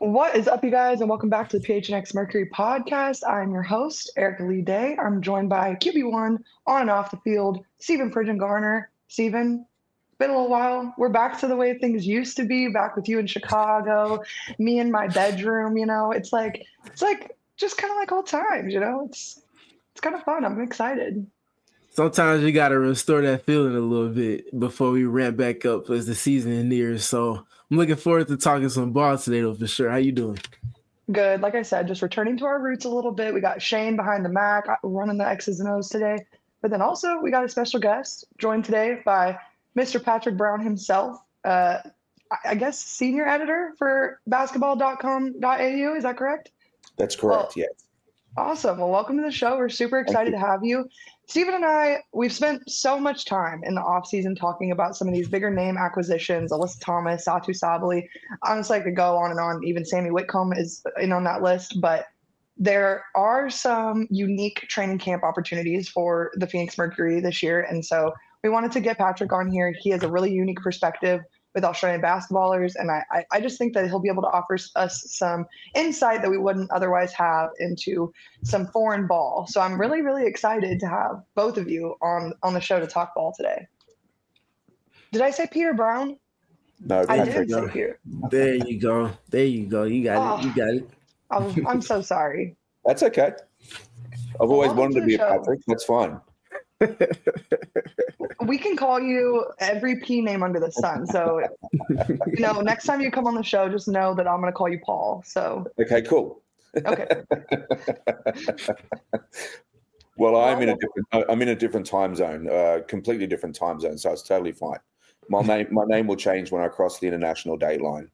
What is up, you guys, and welcome back to the PHNX Mercury podcast. I'm your host, Erica Lee Day. I'm joined by QB1 on and off the field, Stephen Pridgeon Garner. Stephen, it's been a little while. We're back to the way things used to be, back with you in Chicago, me in my bedroom. It's like just kind of like old times. It's kind of fun. I'm excited. Sometimes you got to restore that feeling a little bit before we ramp back up as the season nears. So I'm looking forward to talking some ball today, though, for sure. How you doing? Good. Like I said, just returning to our roots a little bit. We got Shane behind the Mac running the X's and O's today. But then also we got a special guest joined today by Mr. Patrick Brown himself. I guess senior editor for basketball.com.au. Is that correct? That's correct, yes. Awesome. Well, welcome to the show. We're super excited to have you. Stephen and I, we've spent so much time in the offseason talking about some of these bigger name acquisitions, Alyssa Thomas, Satu Sabali. Honestly, I could go on and on. Even Sammy Whitcomb is in on that list. But there are some unique training camp opportunities for the Phoenix Mercury this year. And so we wanted to get Patrick on here. He has a really unique perspective with Australian basketballers. And I just think that he'll be able to offer us some insight that we wouldn't otherwise have into some foreign ball. So I'm really, really excited to have both of you on the show to talk ball today. Did I say Peter Brown? No, I did say Peter. There you go. You got it. I'm so sorry. That's okay. I've always wanted to be a Patrick. That's fine. We can call you every P name under the sun. So, next time you come on the show, just know that I'm going to call you Paul. So. Okay, cool. Okay. Well, I'm in a different time zone, completely different time zone. So it's totally fine. My name will change when I cross the international date line.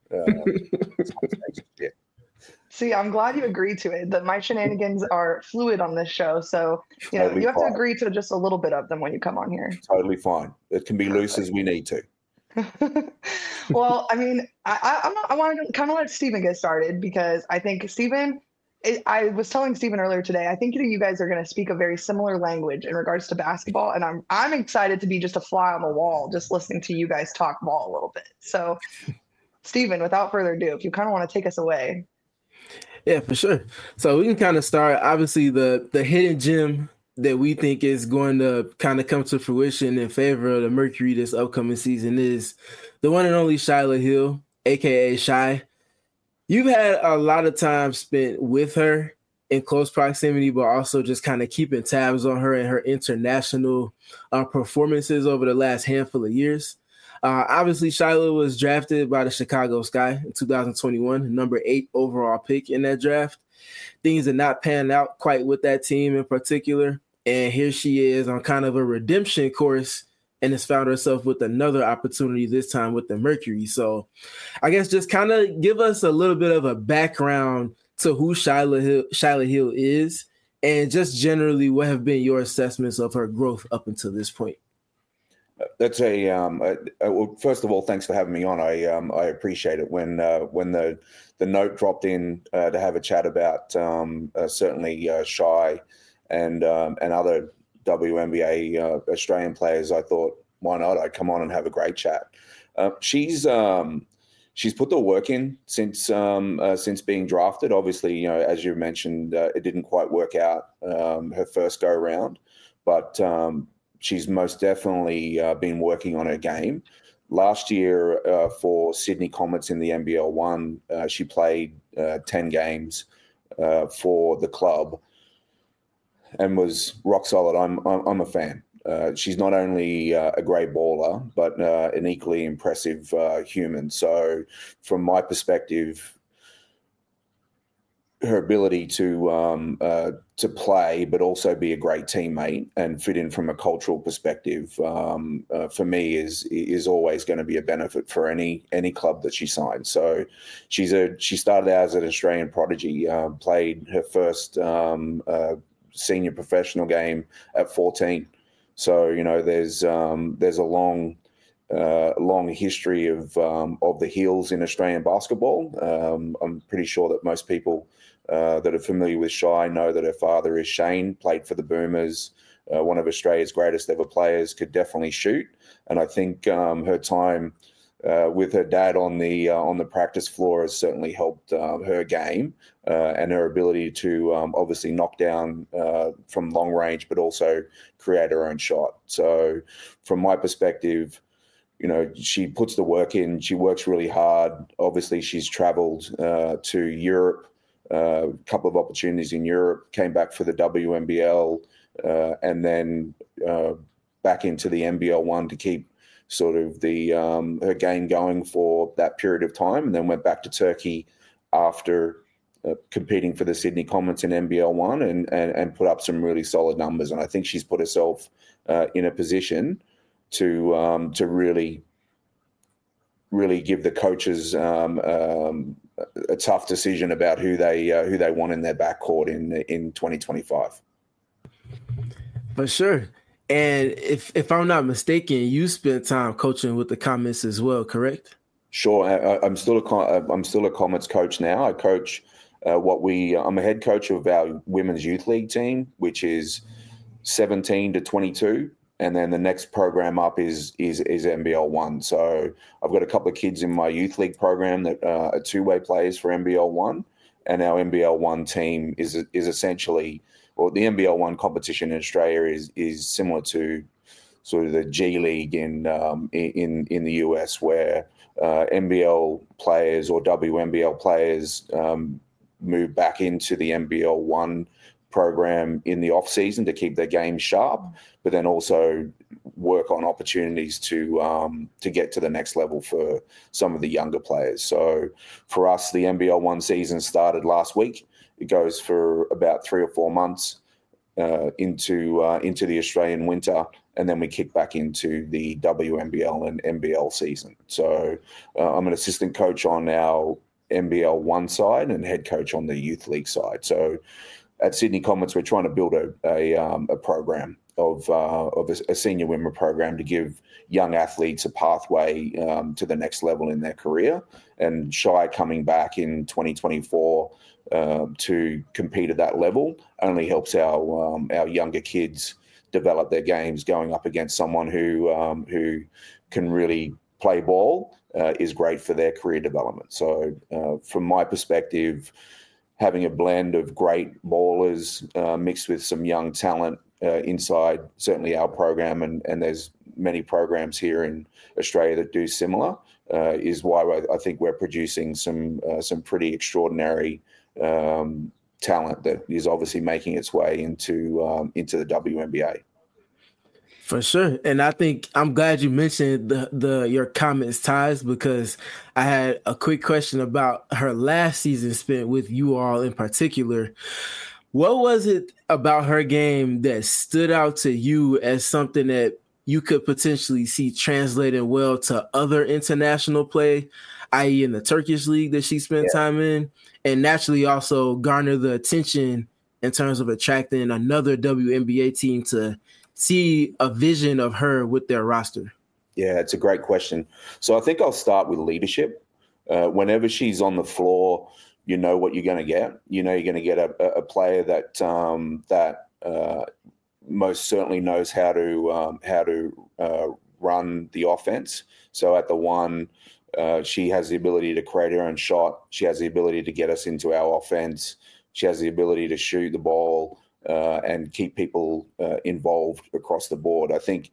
Yeah. See, I'm glad you agreed to it. That my shenanigans are fluid on this show, so you have to agree to just a little bit of them when you come on here. Totally fine. It can be loose as we need to. Well, I mean, I want to kind of let Stephen get started because I think Stephen. I was telling Stephen earlier today. I think you guys are going to speak a very similar language in regards to basketball, and I'm excited to be just a fly on the wall, just listening to you guys talk ball a little bit. So, Stephen, without further ado, if you kind of want to take us away. Yeah, for sure. So we can kind of start. Obviously, the hidden gem that we think is going to kind of come to fruition in favor of the Mercury this upcoming season is the one and only Shyla Hill, a.k.a. Shy. You've had a lot of time spent with her in close proximity, but also just kind of keeping tabs on her and her international performances over the last handful of years. Obviously, Shyla was drafted by the Chicago Sky in 2021, number 8 overall pick in that draft. Things did not pan out quite with that team in particular. And here she is on kind of a redemption course and has found herself with another opportunity, this time with the Mercury. So I guess just kind of give us a little bit of a background to who Shyla Hill is and just generally what have been your assessments of her growth up until this point. That's well, first of all, thanks for having me on. I appreciate it. When the note dropped in to have a chat about certainly Shy and other WNBA Australian players, I thought, why not? I'd come on and have a great chat. She's put the work in since being drafted. Obviously, as you mentioned, it didn't quite work out her first go round, but she's most definitely been working on her game. Last year for Sydney Comets in the NBL 1, she played 10 games for the club and was rock solid. I'm a fan. She's not only a great baller, but an equally impressive human. So from my perspective, her ability to play, but also be a great teammate and fit in from a cultural perspective, for me is always going to be a benefit for any club that she signs. So she started out as an Australian prodigy, played her first senior professional game at 14. So there's a long history of the Heels in Australian basketball. I'm pretty sure that most people that are familiar with Shy know that her father is Shane, played for the Boomers, one of Australia's greatest ever players, could definitely shoot. And I think her time with her dad on the practice floor has certainly helped her game and her ability to obviously knock down from long range, but also create her own shot. So from my perspective, she puts the work in. She works really hard. Obviously, she's traveled to Europe, a couple of opportunities in Europe, came back for the WNBL, and then back into the NBL one to keep sort of her game going for that period of time, and then went back to Turkey after competing for the Sydney Comets in NBL one and put up some really solid numbers. And I think she's put herself in a position to really give the coaches a tough decision about who they want in their backcourt in 2025. For sure. And if I'm not mistaken, you spent time coaching with the Comets as well, correct? Sure. I'm still a Comets coach now. I coach I'm a head coach of our women's youth league team, which is 17 to 22. And then the next program up is NBL one. So I've got a couple of kids in my youth league program that are two-way players for NBL one, and our NBL one team is essentially, well, the NBL one competition in Australia is similar to sort of the G League in the US, where NBL players or WNBL players move back into the NBL one program in the off season to keep their game sharp, but then also work on opportunities to get to the next level for some of the younger players. So for us, the NBL one season started last week. It goes for about 3 or 4 months into the Australian winter, and then we kick back into the WNBL and NBL season. So I'm an assistant coach on our NBL one side and head coach on the youth league side. So at Sydney Comets, we're trying to build a program of a senior women program to give young athletes a pathway to the next level in their career. And Shy coming back in 2024 to compete at that level only helps our younger kids develop their games. Going up against someone who can really play ball is great for their career development. So from my perspective, having a blend of great ballers mixed with some young talent inside certainly our program, and there's many programs here in Australia that do similar, is why I think we're producing some pretty extraordinary talent that is obviously making its way into the WNBA. For sure. And I think I'm glad you mentioned your Comets ties, because I had a quick question about her last season spent with you all in particular. What was it about her game that stood out to you as something that you could potentially see translating well to other international play, i.e. in the Turkish league that she spent time in, and naturally also garner the attention in terms of attracting another WNBA team to see a vision of her with their roster? Yeah, it's a great question. So I think I'll start with leadership. Whenever she's on the floor, you know what you're going to get. You know you're going to get a player that most certainly knows how to run the offense. So at the one, she has the ability to create her own shot. She has the ability to get us into our offense. She has the ability to shoot the ball and keep people involved across the board. I think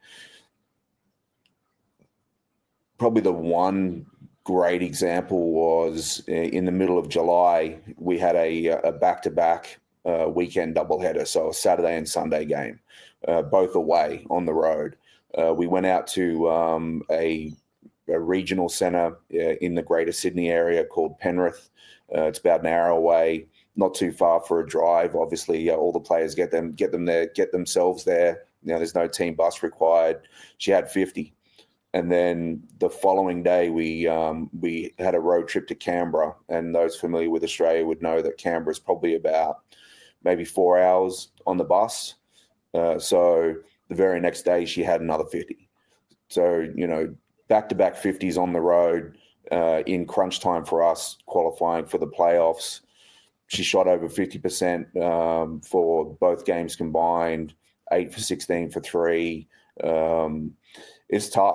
probably the one great example was in the middle of July. We had a back-to-back weekend doubleheader, so a Saturday and Sunday game, both away on the road. We went out to a regional centre in the Greater Sydney area called Penrith. It's about an hour away. Not too far for a drive. Obviously, all the players get themselves there. There's no team bus required. She had 50, and then the following day we had a road trip to Canberra. And those familiar with Australia would know that Canberra is probably about maybe 4 hours on the bus. So the very next day she had another 50. So back-to-back 50s on the road in crunch time for us, qualifying for the playoffs. She shot over 50% for both games combined, 8 for 16 for 3. It's tough.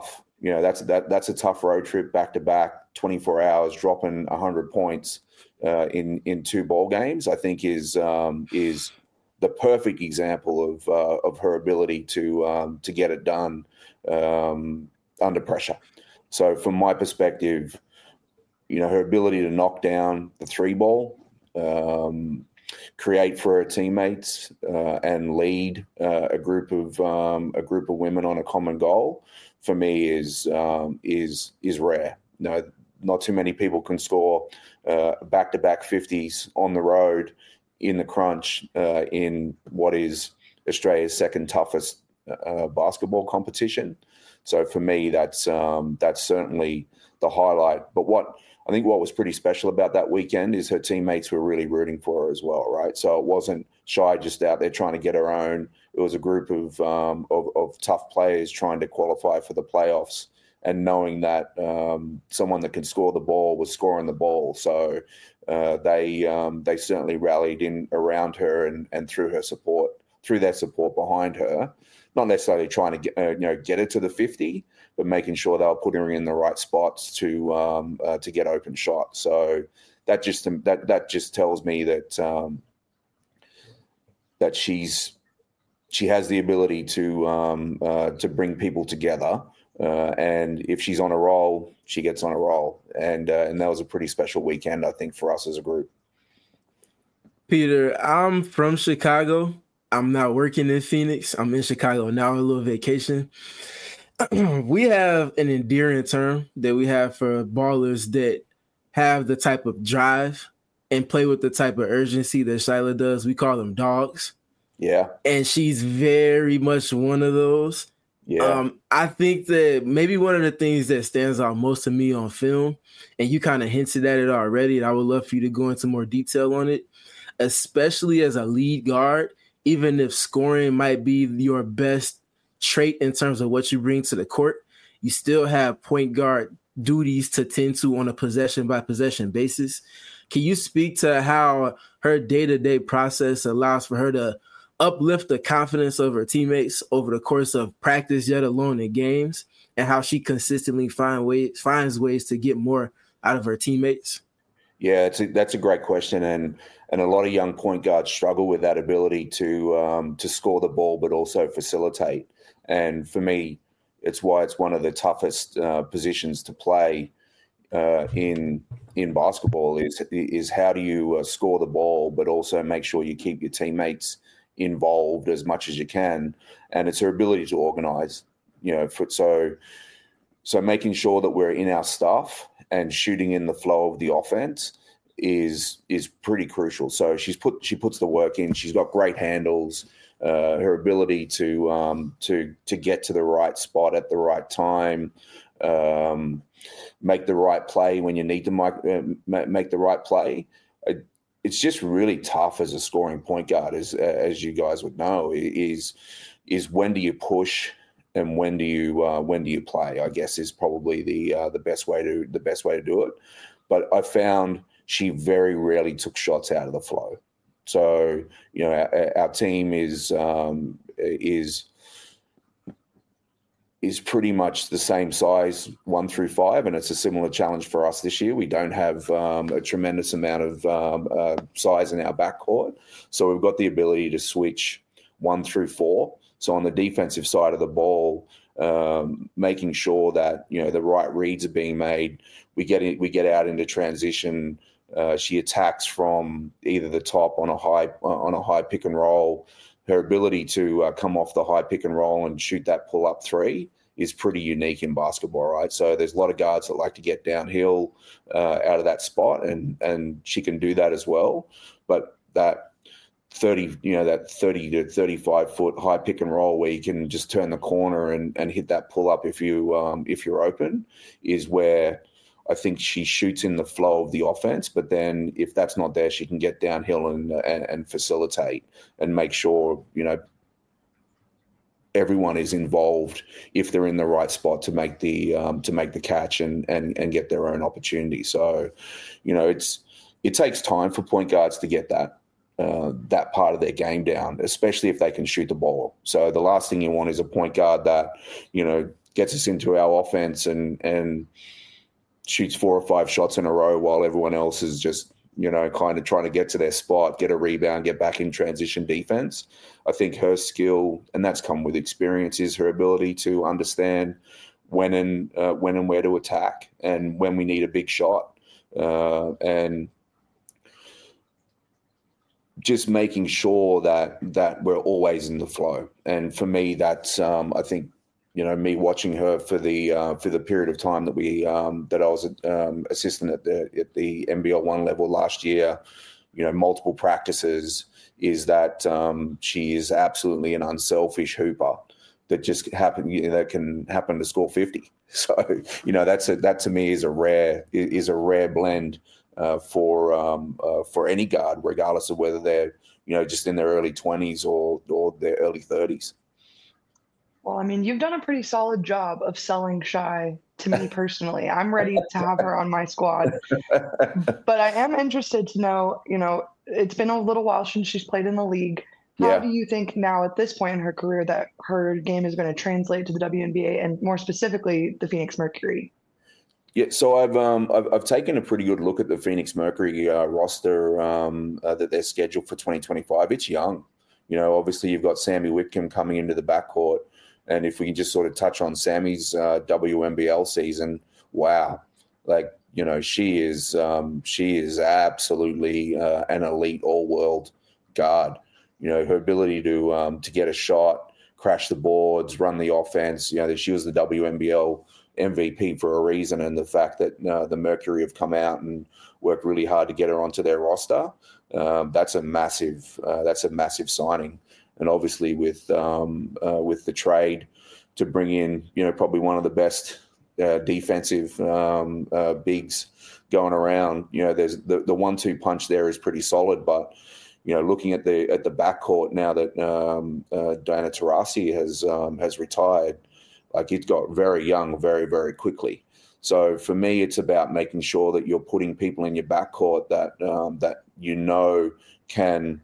that's a tough road trip back to back, 24 hours, dropping 100 points in 2 ball games. I think is the perfect example of her ability to get it done under pressure. So from my perspective, her ability to knock down the 3 ball, create for her teammates, and lead a group of women on a common goal, for me is rare. Not too many people can score back-to-back 50s on the road in the crunch in what is Australia's second toughest basketball competition. So for me, that's certainly the highlight. But what was pretty special about that weekend is her teammates were really rooting for her as well, right? So it wasn't Shy just out there trying to get her own. It was a group of tough players trying to qualify for the playoffs, and knowing that someone that can score the ball was scoring the ball. So they certainly rallied in around her and through their support behind her. Not necessarily trying to get her to the 50, but making sure they were putting her in the right spots to get open shots. So that just tells me that she has the ability to bring people together, and if she's on a roll, she gets on a roll, and that was a pretty special weekend, I think, for us as a group. Peter, I'm from Chicago. I'm not working in Phoenix. I'm in Chicago now on a little vacation. We have an endearing term that we have for ballers that have the type of drive and play with the type of urgency that Shyla does. We call them dogs. Yeah. And she's very much one of those. Yeah. I think that maybe one of the things that stands out most to me on film, and you kind of hinted at it already, and I would love for you to go into more detail on it, especially as a lead guard, even if scoring might be your best trait in terms of what you bring to the court, you still have point guard duties to tend to on a possession-by-possession basis. Can you speak to how her day-to-day process allows for her to uplift the confidence of her teammates over the course of practice, yet alone in games, and how she consistently finds ways to get more out of her teammates? Yeah, that's a great question, and a lot of young point guards struggle with that ability to score the ball, but also facilitate. And for me, it's why it's one of the toughest positions to play in basketball. Is how do you score the ball, but also make sure you keep your teammates involved as much as you can. And it's her ability to organize. So making sure that we're in our stuff and shooting in the flow of the offense is pretty crucial. So she puts the work in. She's got great handles. Her ability to get to the right spot at the right time, make the right play when you need to make the right play. It's just really tough as a scoring point guard, as you guys would know. Is when do you push and when do you play? I guess is probably the best way to do it. But I found she very rarely took shots out of the flow. So our team is pretty much the same size 1 through 5, and it's a similar challenge for us this year. We don't have a tremendous amount of size in our backcourt, so we've got the ability to switch 1 through 4. So on the defensive side of the ball, making sure that the right reads are being made. We get out into transition. She attacks from either the top on a high pick and roll. Her ability to come off the high pick and roll and shoot that pull up 3 is pretty unique in basketball, right? So there's a lot of guards that like to get downhill out of that spot, and she can do that as well. But that 30 to 35 foot high pick and roll where you can just turn the corner and hit that pull up if you're open is where I think she shoots in the flow of the offense. But then if that's not there, she can get downhill and facilitate and make sure everyone is involved if they're in the right spot to make the catch and get their own opportunity. So it takes time for point guards to get that part of their game down, especially if they can shoot the ball. So the last thing you want is a point guard that gets us into our offense and shoots 4 or 5 shots in a row while everyone else is just, kind of trying to get to their spot, get a rebound, get back in transition defense. I think her skill, and that's come with experience, is her ability to understand when and where to attack and when we need a big shot. And just making sure that we're always in the flow. And for me, that's I think, me watching her for the period of time that I was assistant at the NBL 1 level last year, multiple practices, is that she is absolutely an unselfish hooper that just that can happen to score 50. So that to me is a rare blend for any guard, regardless of whether they're just in their early 20s or their early 30s. Well, I mean, you've done a pretty solid job of selling Shy to me personally. I'm ready to have her on my squad. But I am interested to know, it's been a little while since she's played in the league. How do you think now at this point in her career that her game is going to translate to the WNBA and more specifically the Phoenix Mercury? Yeah, so I've taken a pretty good look at the Phoenix Mercury roster that they're scheduled for 2025. It's young. Obviously you've got Sammy Whitcomb coming into the backcourt. And if we can just sort of touch on Sammy's WNBL season, wow. She is absolutely an elite all-world guard. Her ability to get a shot, crash the boards, run the offense. She was the WNBL MVP for a reason, and the fact that the Mercury have come out and worked really hard to get her onto their roster, that's a massive signing. And obviously with the trade to bring in probably one of the best defensive bigs going around, there's the 1-2 punch there is pretty solid. But looking at the backcourt now that Diana Taurasi has retired, it got very young very, very quickly. So for me, it's about making sure that you're putting people in your backcourt that can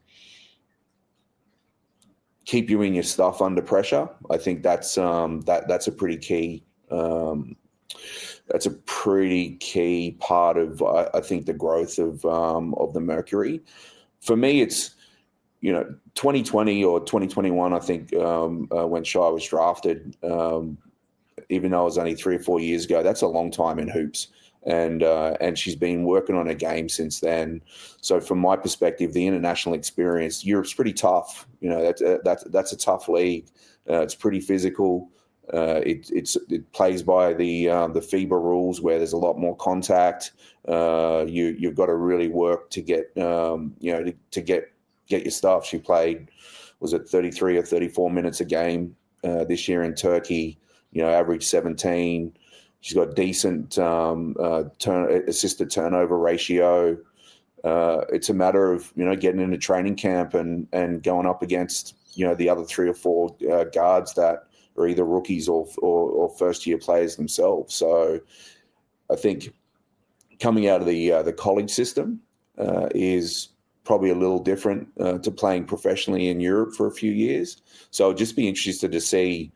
keep you in your stuff under pressure. I think that's a pretty key. That's a pretty key part of I think the growth of the Mercury. For me, it's 2020 or 2021. I think when Shy was drafted, even though it was only 3 or 4 years ago, that's a long time in hoops. And she's been working on her game since then. So from my perspective, the international experience, Europe's pretty tough. That's a tough league. It's pretty physical. It plays by the FIBA rules where there's a lot more contact. You've got to really work to get to get your stuff. She played, was it 33 or 34 minutes a game this year in Turkey? Average 17. She's got decent assisted turnover ratio. It's a matter of getting into training camp and going up against the other 3 or 4 guards that are either rookies or first year players themselves. So I think coming out of the college system is probably a little different to playing professionally in Europe for a few years. So I'd just be interested to see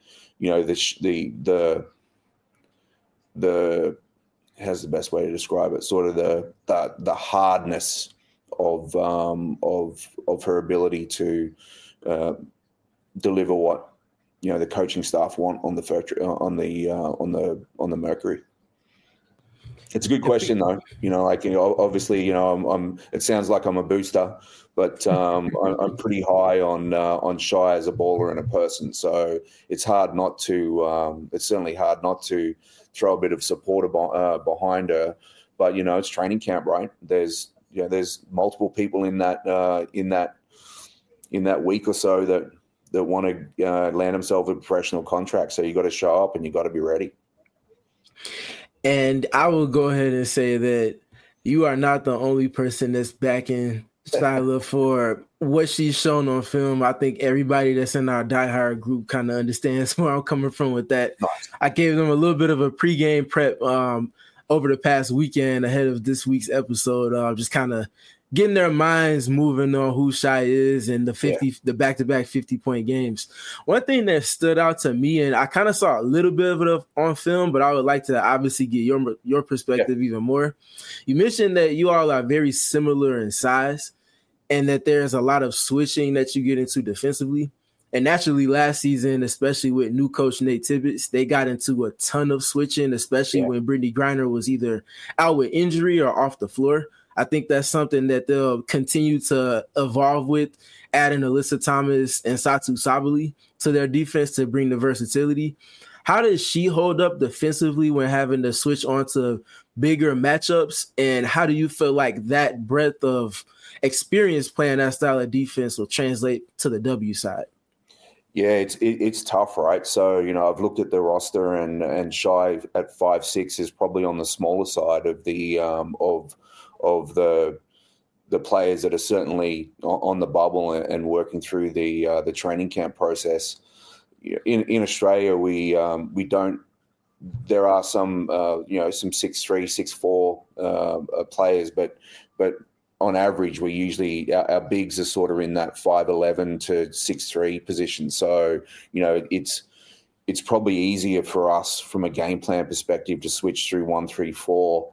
the how's the best way to describe it? Sort of the hardness of her ability to deliver what the coaching staff want on the Mercury. It's a good question though. Obviously, it sounds like I'm a booster, but I'm pretty high on Shy as a baller and a person. So it's hard not to. It's certainly hard not to throw a bit of support behind her. But it's training camp, right? There's multiple people in that week or so that want to land themselves a professional contract. So you got to show up and you got to be ready. And I will go ahead and say that you are not the only person that's backing Shyla for what she's shown on film. I think everybody that's in our diehard group kind of understands where I'm coming from with that. I gave them a little bit of a pregame prep over the past weekend ahead of this week's episode, just kind of getting their minds moving on who Shai is and the back-to-back 50-point games. One thing that stood out to me, and I kind of saw a little bit of it on film, but I would like to obviously get your perspective even more. You mentioned that you all are very similar in size and that there's a lot of switching that you get into defensively. And naturally, last season, especially with new coach Nate Tibbetts, they got into a ton of switching, especially when Brittany Griner was either out with injury or off the floor. I think that's something that they'll continue to evolve with, adding Alyssa Thomas and Satu Sabally to their defense to bring the versatility. How does she hold up defensively when having to switch onto bigger matchups? And how do you feel like that breadth of experience playing that style of defense will translate to the W side? Yeah, it's tough, right? So, I've looked at the roster and Shai at 5'6" is probably on the smaller side of the of the players that are certainly on the bubble and working through the training camp process. In Australia, we don't. There are some some 6'3", 6'4" players, but on average, we usually our bigs are sort of in that 5'11" to 6'3" position. So it's probably easier for us from a game plan perspective to switch through 1 through 4,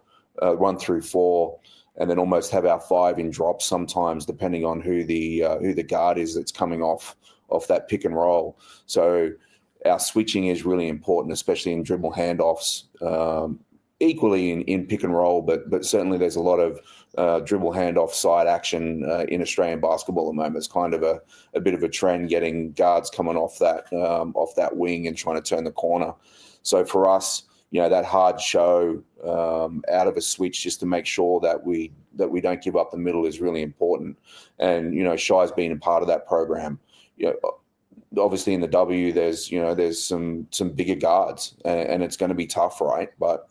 and then almost have our 5 in drops sometimes, depending on who the guard is that's coming off that pick and roll. So our switching is really important, especially in dribble handoffs. Equally in pick and roll, but certainly there's a lot of dribble handoff side action in Australian basketball at the moment. It's kind of a bit of a trend, getting guards coming off that wing and trying to turn the corner. So for us, that hard show out of a switch just to make sure that we don't give up the middle is really important. And Shai's been a part of that program. Obviously in the W, there's some bigger guards, and it's going to be tough, right? But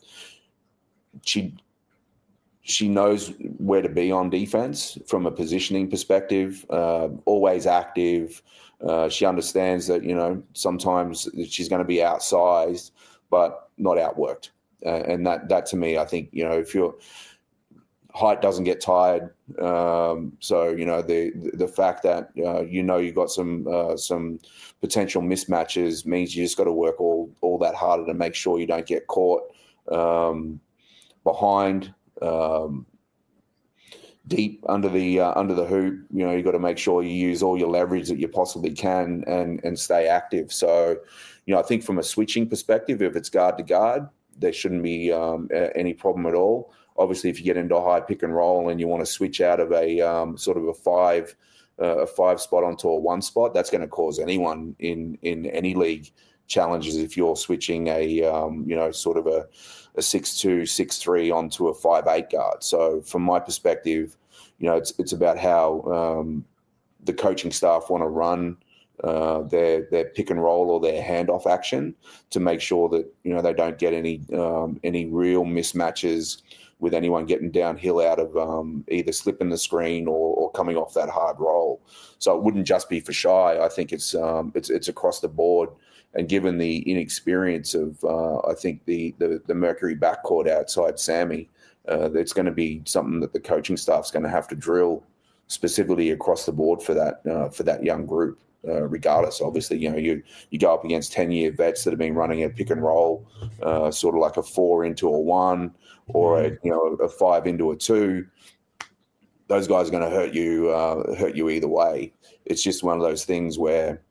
she knows where to be on defense from a positioning perspective, always active. She understands that, sometimes she's going to be outsized, but not outworked. And that to me, I think, if your height doesn't get tired. So, the fact that, you've got some potential mismatches means you just got to work all that harder to make sure you don't get caught behind, deep under the hoop. You got to make sure you use all your leverage that you possibly can and stay active. So, I think from a switching perspective, if it's guard to guard, there shouldn't be any problem at all. Obviously, if you get into a high pick and roll and you want to switch out of a sort of a 5 spot onto a 1 spot, that's going to cause anyone in any league challenges if you're switching a sort of a 6'2", 6'3" onto a 5'8" guard. So from my perspective, it's about how the coaching staff want to run their pick and roll or their handoff action to make sure that they don't get any real mismatches with anyone getting downhill out of either slipping the screen or coming off that hard roll. So it wouldn't just be for Shai. I think it's across the board. And given the inexperience of, I think the Mercury backcourt outside Sammy, it's going to be something that the coaching staff's going to have to drill specifically across the board for that young group. Regardless, obviously, you go up against 10-year vets that have been running a pick and roll, sort of like a 4 into a 1 or a 5 into a 2. Those guys are going to hurt you either way. It's just one of those things where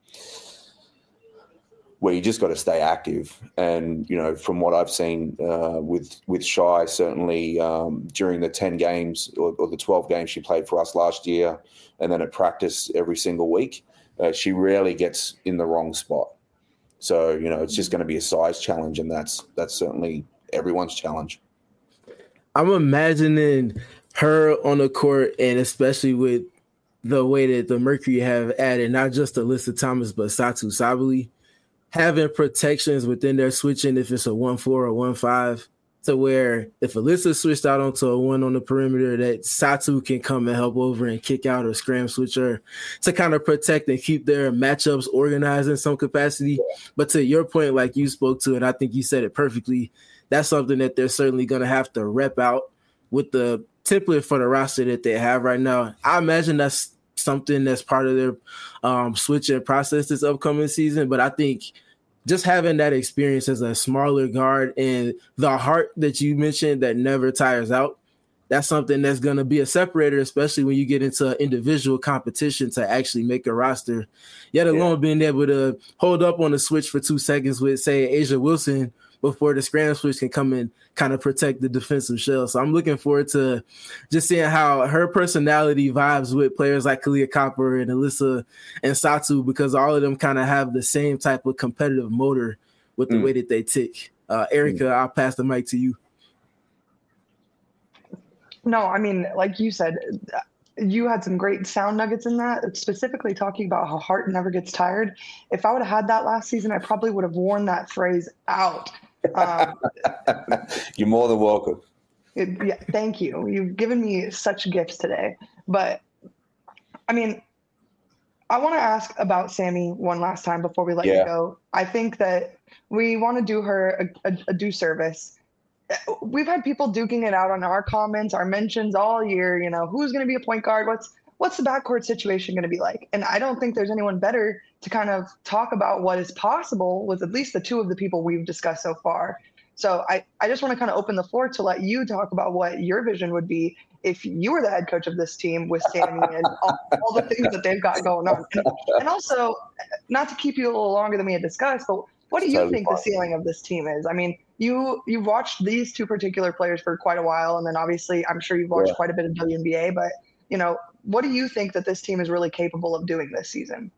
you just got to stay active. And, from what I've seen with Shai, certainly during the 10 games or the 12 games she played for us last year, and then at practice every single week, she rarely gets in the wrong spot. So, it's just going to be a size challenge, and that's certainly everyone's challenge. I'm imagining her on the court, and especially with the way that the Mercury have added not just Alyssa Thomas, but Satu Sabally, having protections within their switching, if it's a 1-4 or 1-5, to where if Alyssa switched out onto a 1 on the perimeter, that Satu can come and help over and kick out or scram switch her to kind of protect and keep their matchups organized in some capacity. But to your point, like you spoke to, and I think you said it perfectly, that's something that they're certainly going to have to rep out with the template for the roster that they have right now. I imagine that's something that's part of their switching process this upcoming season. But I think just having that experience as a smaller guard and the heart that you mentioned that never tires out, that's something that's going to be a separator, especially when you get into individual competition to actually make a roster, yet alone being able to hold up on the switch for 2 seconds with, say, Asia Wilson before the scram switch can come and kind of protect the defensive shell. So I'm looking forward to just seeing how her personality vibes with players like Kalia Copper and Alyssa and Satu, because all of them kind of have the same type of competitive motor with the way that they tick. Erica, I'll pass the mic to you. No, I mean, like you said, you had some great sound nuggets in that, specifically talking about how heart never gets tired. If I would have had that last season, I probably would have worn that phrase out. You're more than welcome. Yeah, thank you. You've given me such gifts today. But, I mean, I want to ask about Sammy one last time before we let you go. I think that we want to do her a due service. We've had people duking it out on our comments, our mentions all year, who's going to be a point guard? What's the backcourt situation going to be like? And I don't think there's anyone better to kind of talk about what is possible with at least the two of the people we've discussed so far. So I just want to kind of open the floor to let you talk about what your vision would be if you were the head coach of this team with Sammy and all the things that they've got going on. And also, not to keep you a little longer than we had discussed, but what do you think the ceiling of this team is? I mean, you've watched these two particular players for quite a while, and then obviously I'm sure you've watched quite a bit of WNBA, but what do you think that this team is really capable of doing this season?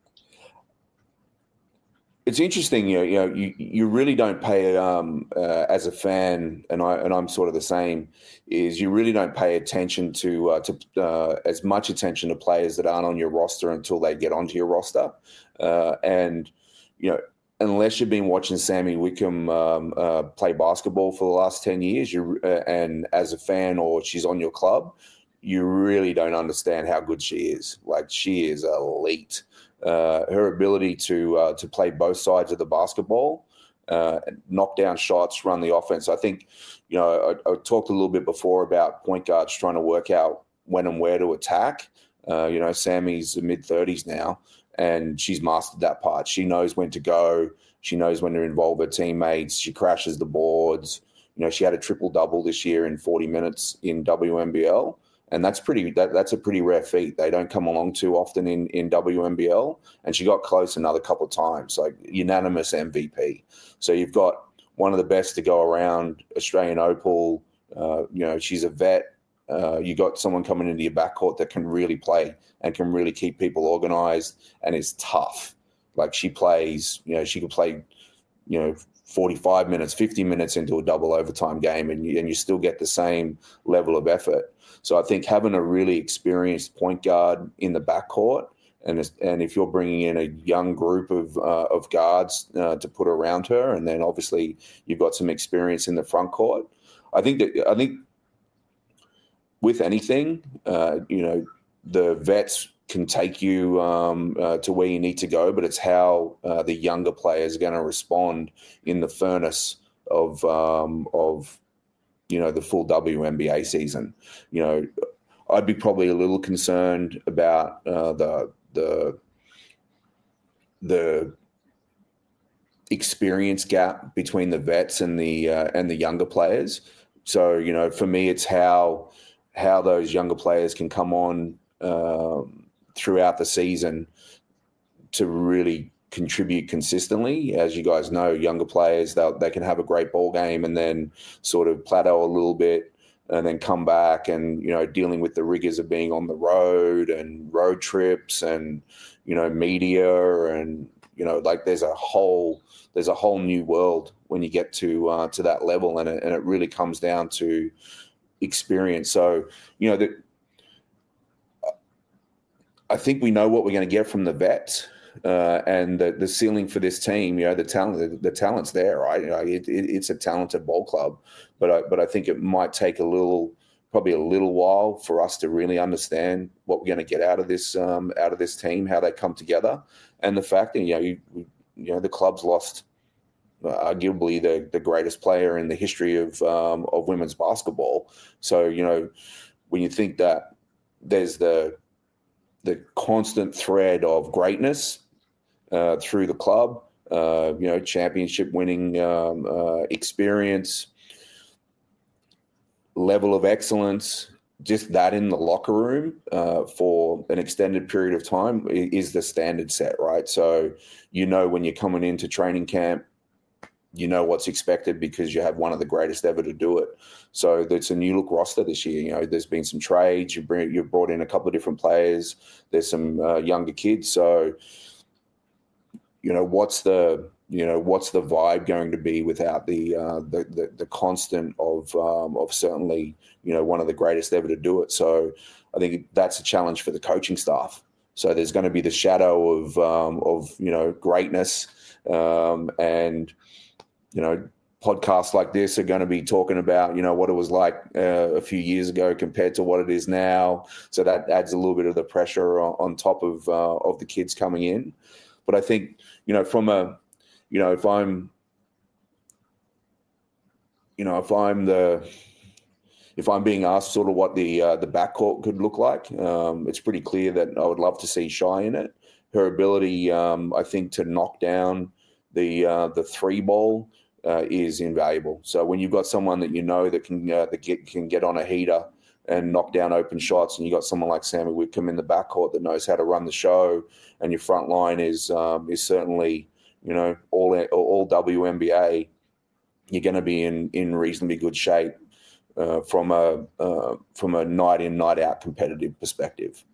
It's interesting, you really don't pay as a fan, and I'm sort of the same. Is you really don't pay attention to as much attention to players that aren't on your roster until they get onto your roster, and unless you've been watching Sammy Wickham play basketball for the last 10 years, and as a fan or she's on your club, you really don't understand how good she is. Like, she is elite. Her ability to play both sides of the basketball, knock down shots, run the offense. I think, I talked a little bit before about point guards trying to work out when and where to attack. Sammy's mid-30s now, and she's mastered that part. She knows when to go. She knows when to involve her teammates. She crashes the boards. She had a triple-double this year in 40 minutes in WNBL, and that's a pretty rare feat. They don't come along too often in WNBL, and she got close another couple of times, like unanimous MVP. So you've got one of the best to go around, Australian Opal. She's a vet. You got someone coming into your backcourt that can really play and can really keep people organized and is tough. Like, she plays, she could play, 45 minutes, 50 minutes into a double overtime game, and you still get the same level of effort. So I think having a really experienced point guard in the backcourt, and if you're bringing in a young group of guards to put around her, and then obviously you've got some experience in the front court, I think with anything, the vets can take you to where you need to go, but it's how the younger players are going to respond in the furnace of the full WNBA season. I'd be probably a little concerned about the experience gap between the vets and the younger players. So for me, it's how those younger players can come on throughout the season to really contribute consistently. As you guys know, younger players, they can have a great ball game and then sort of plateau a little bit and then come back and, dealing with the rigors of being on the road and road trips and, media and, there's a whole new world when you get to that level, and it really comes down to experience. So, I think we know what we're going to get from the vets, and the ceiling for this team. The talent's there, right? It's a talented ball club, but I think it might take probably a little while for us to really understand what we're going to get out of this team, how they come together, and the fact that the club's lost arguably the greatest player in the history of women's basketball. So when you think that there's the constant thread of greatness through the club, championship winning experience, level of excellence, just that in the locker room for an extended period of time is the standard set, right? So, when you're coming into training camp, you know what's expected because you have one of the greatest ever to do it. So it's a new look roster this year. There's been some trades. You've brought in a couple of different players. There's some younger kids. So, what's the vibe going to be without the constant of certainly, one of the greatest ever to do it. So I think that's a challenge for the coaching staff. So there's going to be the shadow of greatness, and podcasts like this are going to be talking about, what it was like a few years ago compared to what it is now. So that adds a little bit of the pressure on top of the kids coming in. But I think, if I'm being asked sort of what the backcourt could look like, it's pretty clear that I would love to see Shy in it. Her ability, I think, to knock down the three ball is invaluable. So when you've got someone that that can get on a heater and knock down open shots, and you got someone like Sammy Whitcomb in the backcourt that knows how to run the show, and your front line is certainly all WNBA, you're going to be in reasonably good shape from a night in, night out competitive perspective.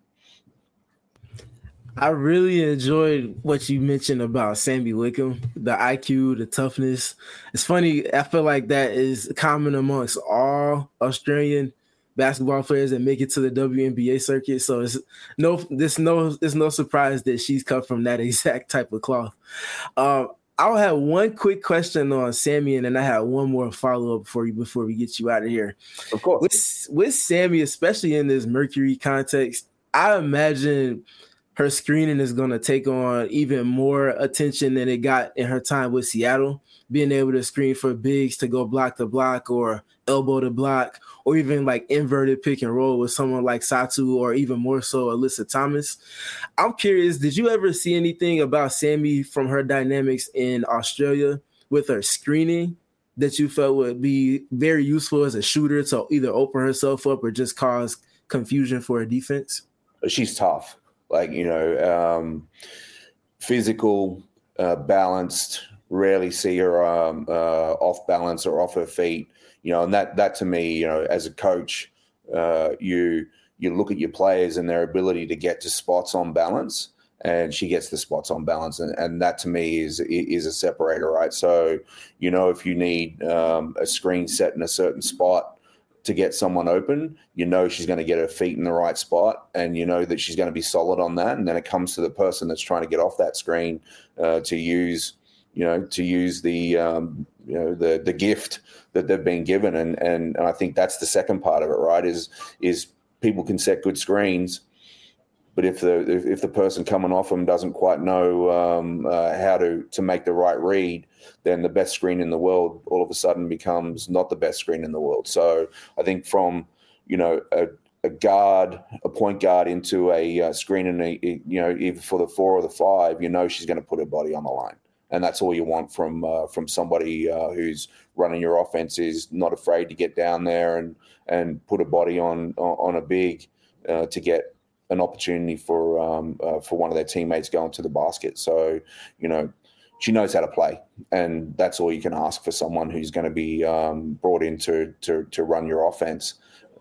I really enjoyed what you mentioned about Sammy Whitcomb, the IQ, the toughness. It's funny. I feel like that is common amongst all Australian basketball players that make it to the WNBA circuit. So it's no surprise that she's cut from that exact type of cloth. I'll have one quick question on Sammy, and then I have one more follow-up for you before we get you out of here. Of course. With Sammy, especially in this Mercury context, I imagine her screening is going to take on even more attention than it got in her time with Seattle, being able to screen for bigs to go block to block or elbow to block, or even like inverted pick and roll with someone like Satu, or even more so Alyssa Thomas. I'm curious, did you ever see anything about Sammy from her dynamics in Australia with her screening that you felt would be very useful as a shooter to either open herself up or just cause confusion for a defense? She's tough. Physical, balanced, rarely see her off balance or off her feet, and that to me, as a coach, you look at your players and their ability to get to spots on balance, and she gets the spots on balance. And that to me is a separator, right? So, if you need a screen set in a certain spot to get someone open, she's going to get her feet in the right spot, and that she's going to be solid on that. And then it comes to the person that's trying to get off that screen to use the gift that they've been given. And I think that's the second part of it, right? Is people can set good screens, but if the person coming off them doesn't quite know how to make the right read, then the best screen in the world all of a sudden becomes not the best screen in the world. So I think from a guard, a point guard into a screen, and either for the 4 or the 5, she's going to put her body on the line, and that's all you want from somebody who's running your offense, is not afraid to get down there and put a body on a big to get an opportunity for one of their teammates going to the basket. So, she knows how to play, and that's all you can ask for someone who's going to be brought in to run your offense.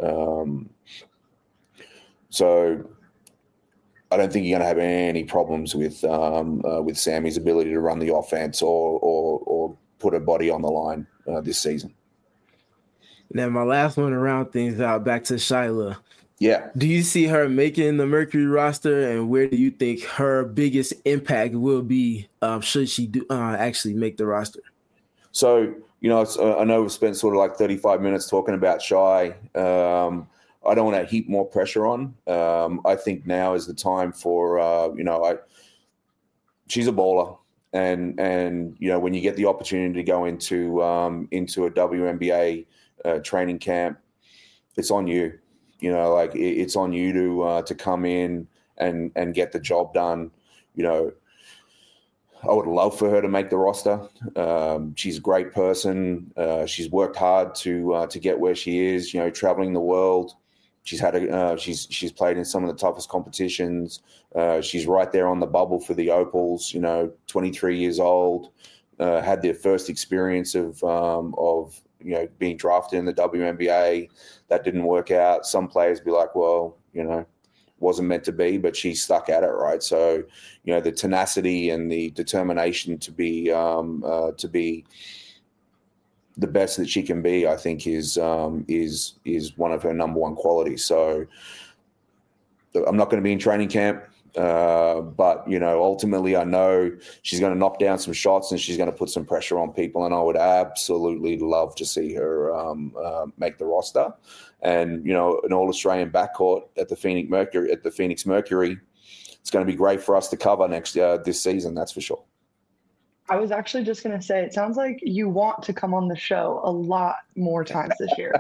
So I don't think you're going to have any problems with Sammy's ability to run the offense or put her body on the line this season. Now, my last one to round things out, back to Shyla. Yeah. Do you see her making the Mercury roster, and where do you think her biggest impact will be should she actually make the roster? So, I know we've spent sort of like 35 minutes talking about Shy. I don't want to heap more pressure on. I think now is the time for, she's a baller. And when you get the opportunity to go into a WNBA training camp, it's on you. You know, like it's on you to come in and get the job done. You know, I would love for her to make the roster. She's a great person. She's worked hard to get where she is. You know, traveling the world. She's had she's played in some of the toughest competitions. She's right there on the bubble for the Opals. You know, 23 years old. Had their first experience of you know, being drafted in the WNBA. That didn't work out. Some players be like, well, you know, wasn't meant to be, but she stuck at it, right? So, you know, the tenacity and the determination to be the best that she can be, I think, is one of her number one qualities. So, I'm not going to be in training camp, but you know, ultimately, I know she's going to knock down some shots and she's going to put some pressure on people, and I would absolutely love to see her make the roster. And you know, an All-Australian backcourt at the Phoenix Mercury, it's going to be great for us to cover this season. That's for sure. I was actually just going to say, it sounds like you want to come on the show a lot more times this year.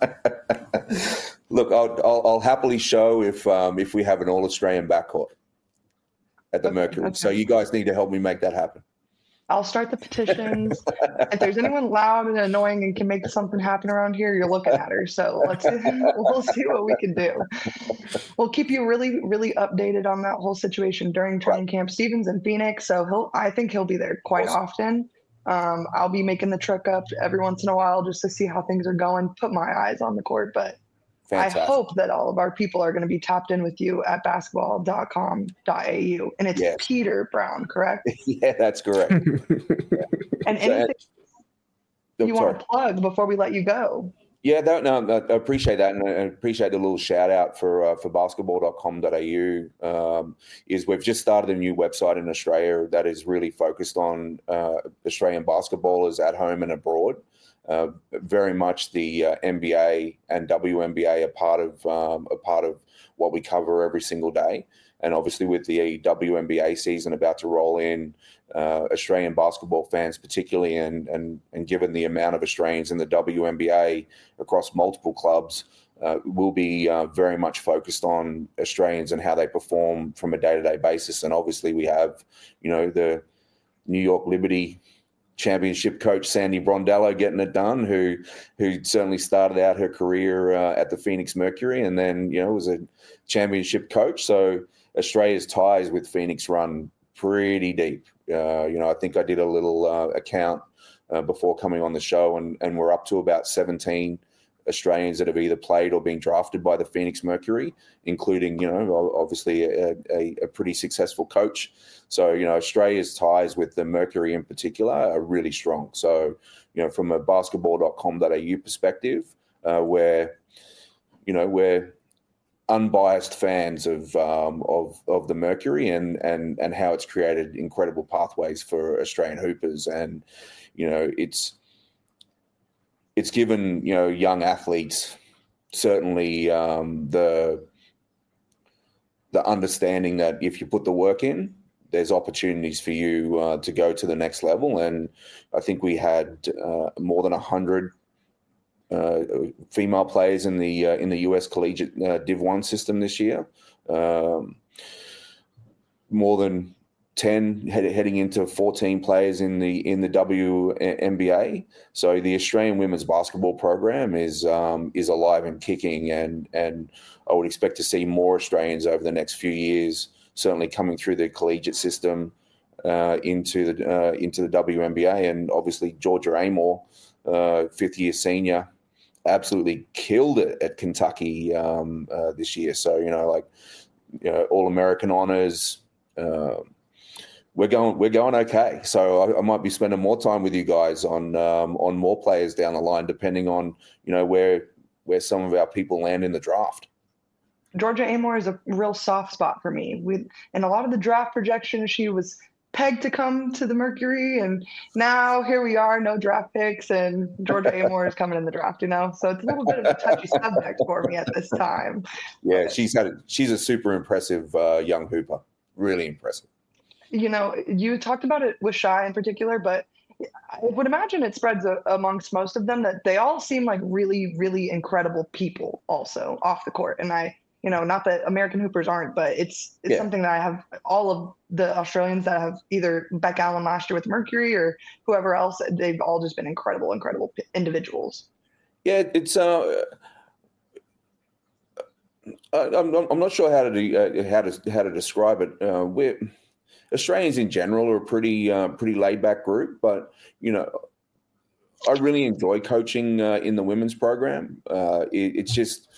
Look, I'll happily show if we have an All-Australian backcourt at the Mercury. Okay. So you guys need to help me make that happen. I'll start the petitions. If there's anyone loud and annoying and can make something happen around here, you're looking at her. So we'll see what we can do. We'll keep you really, really updated on that whole situation during training camp. Steven's in Phoenix, so I think he'll be there quite often. I'll be making the trek up every once in a while just to see how things are going, put my eyes on the court. But fantastic. I hope that all of our people are going to be tapped in with you at basketball.com.au. And it's Peter Brown, correct? Yeah, that's correct. And anything you want to plug before we let you go? Yeah, no, I appreciate that. And I appreciate the little shout out for basketball.com.au. Is we've just started a new website in Australia that is really focused on Australian basketballers at home and abroad. Very much the NBA and WNBA are part of what we cover every single day. And obviously with the WNBA season about to roll in, Australian basketball fans particularly, and given the amount of Australians in the WNBA across multiple clubs, will be very much focused on Australians and how they perform from a day-to-day basis. And obviously we have, you know, the New York Liberty championship coach Sandy Brondello getting it done, who certainly started out her career at the Phoenix Mercury and then, you know, was a championship coach. So Australia's ties with Phoenix run pretty deep. You know, I think I did a little account before coming on the show, and we're up to about 17 Australians that have either played or been drafted by the Phoenix Mercury, including, you know, obviously a pretty successful coach. So, you know, Australia's ties with the Mercury in particular are really strong. So, you know, from a basketball.com.au perspective, we're unbiased fans of the Mercury and how it's created incredible pathways for Australian hoopers. And, you know, it's given, you know, young athletes certainly the understanding that if you put the work in, there's opportunities for you to go to the next level. And I think we had more than 100 female players in the US collegiate Div 1 system this year. More than 10 heading into 14 players in the WNBA. So the Australian women's basketball program is alive and kicking, and I would expect to see more Australians over the next few years, certainly coming through the collegiate system into the WNBA. And obviously Georgia Amor, fifth-year senior, absolutely killed it at Kentucky this year. So, you know, like, you know, All-American honors. We're going okay. So I might be spending more time with you guys on more players down the line, depending on, you know, where some of our people land in the draft. Georgia Amor is a real soft spot for me. In a lot of the draft projections, she was pegged to come to the Mercury, and now here we are, no draft picks, and Georgia Amor is coming in the draft, you know? So it's a little bit of a touchy subject for me at this time. Yeah, she's a super impressive young hooper. Really impressive. You know, you talked about it with Shy in particular, but I would imagine it spreads amongst most of them that they all seem like really, really incredible people also off the court. And not that American hoopers aren't, but it's something that I have all of the Australians that have either Beck Allen last year with Mercury or whoever else, they've all just been incredible individuals. Yeah, it's I'm not sure how to describe it. Australians in general are a pretty laid back group, but I really enjoy coaching in the women's program. It's just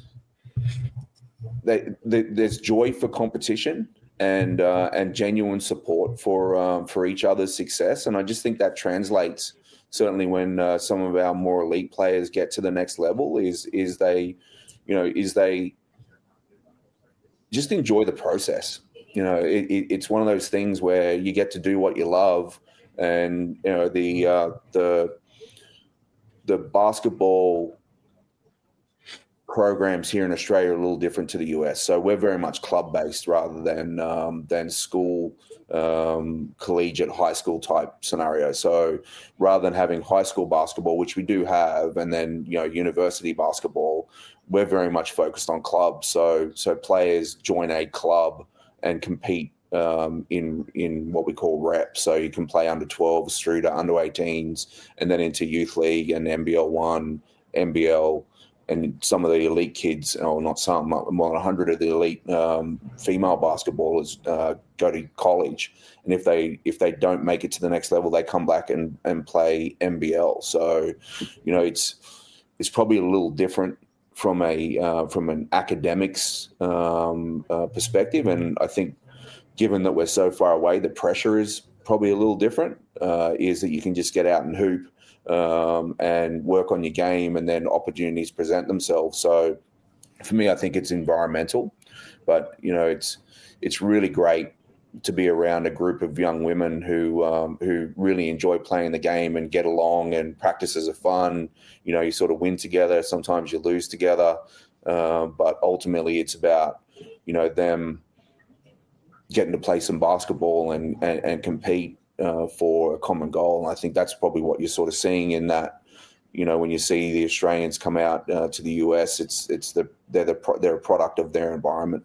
there's joy for competition and genuine support for each other's success, and I just think that translates certainly when some of our more elite players get to the next level. Is they just enjoy the process. It's one of those things where you get to do what you love, and the basketball programs here in Australia are a little different to the US. So we're very much club based rather than school, collegiate, high school type scenario. So rather than having high school basketball, which we do have, and then university basketball, we're very much focused on clubs. So players join a club and compete in what we call reps. So you can play under 12s through to under 18s, and then into youth league and NBL 1, NBL, and some of the elite kids, or not some, more than 100 of the elite female basketballers go to college. And if they don't make it to the next level, they come back and play NBL. So, it's probably a little different from an academics perspective. And I think given that we're so far away, the pressure is probably a little different, is that you can just get out and hoop and work on your game, and then opportunities present themselves. So for me, I think it's environmental, but it's really great to be around a group of young women who really enjoy playing the game and get along, and practices are fun. You sort of win together. Sometimes you lose together. But ultimately it's about, them getting to play some basketball and compete for a common goal. And I think that's probably what you're sort of seeing in that, when you see the Australians come out to the US, they're a product of their environment.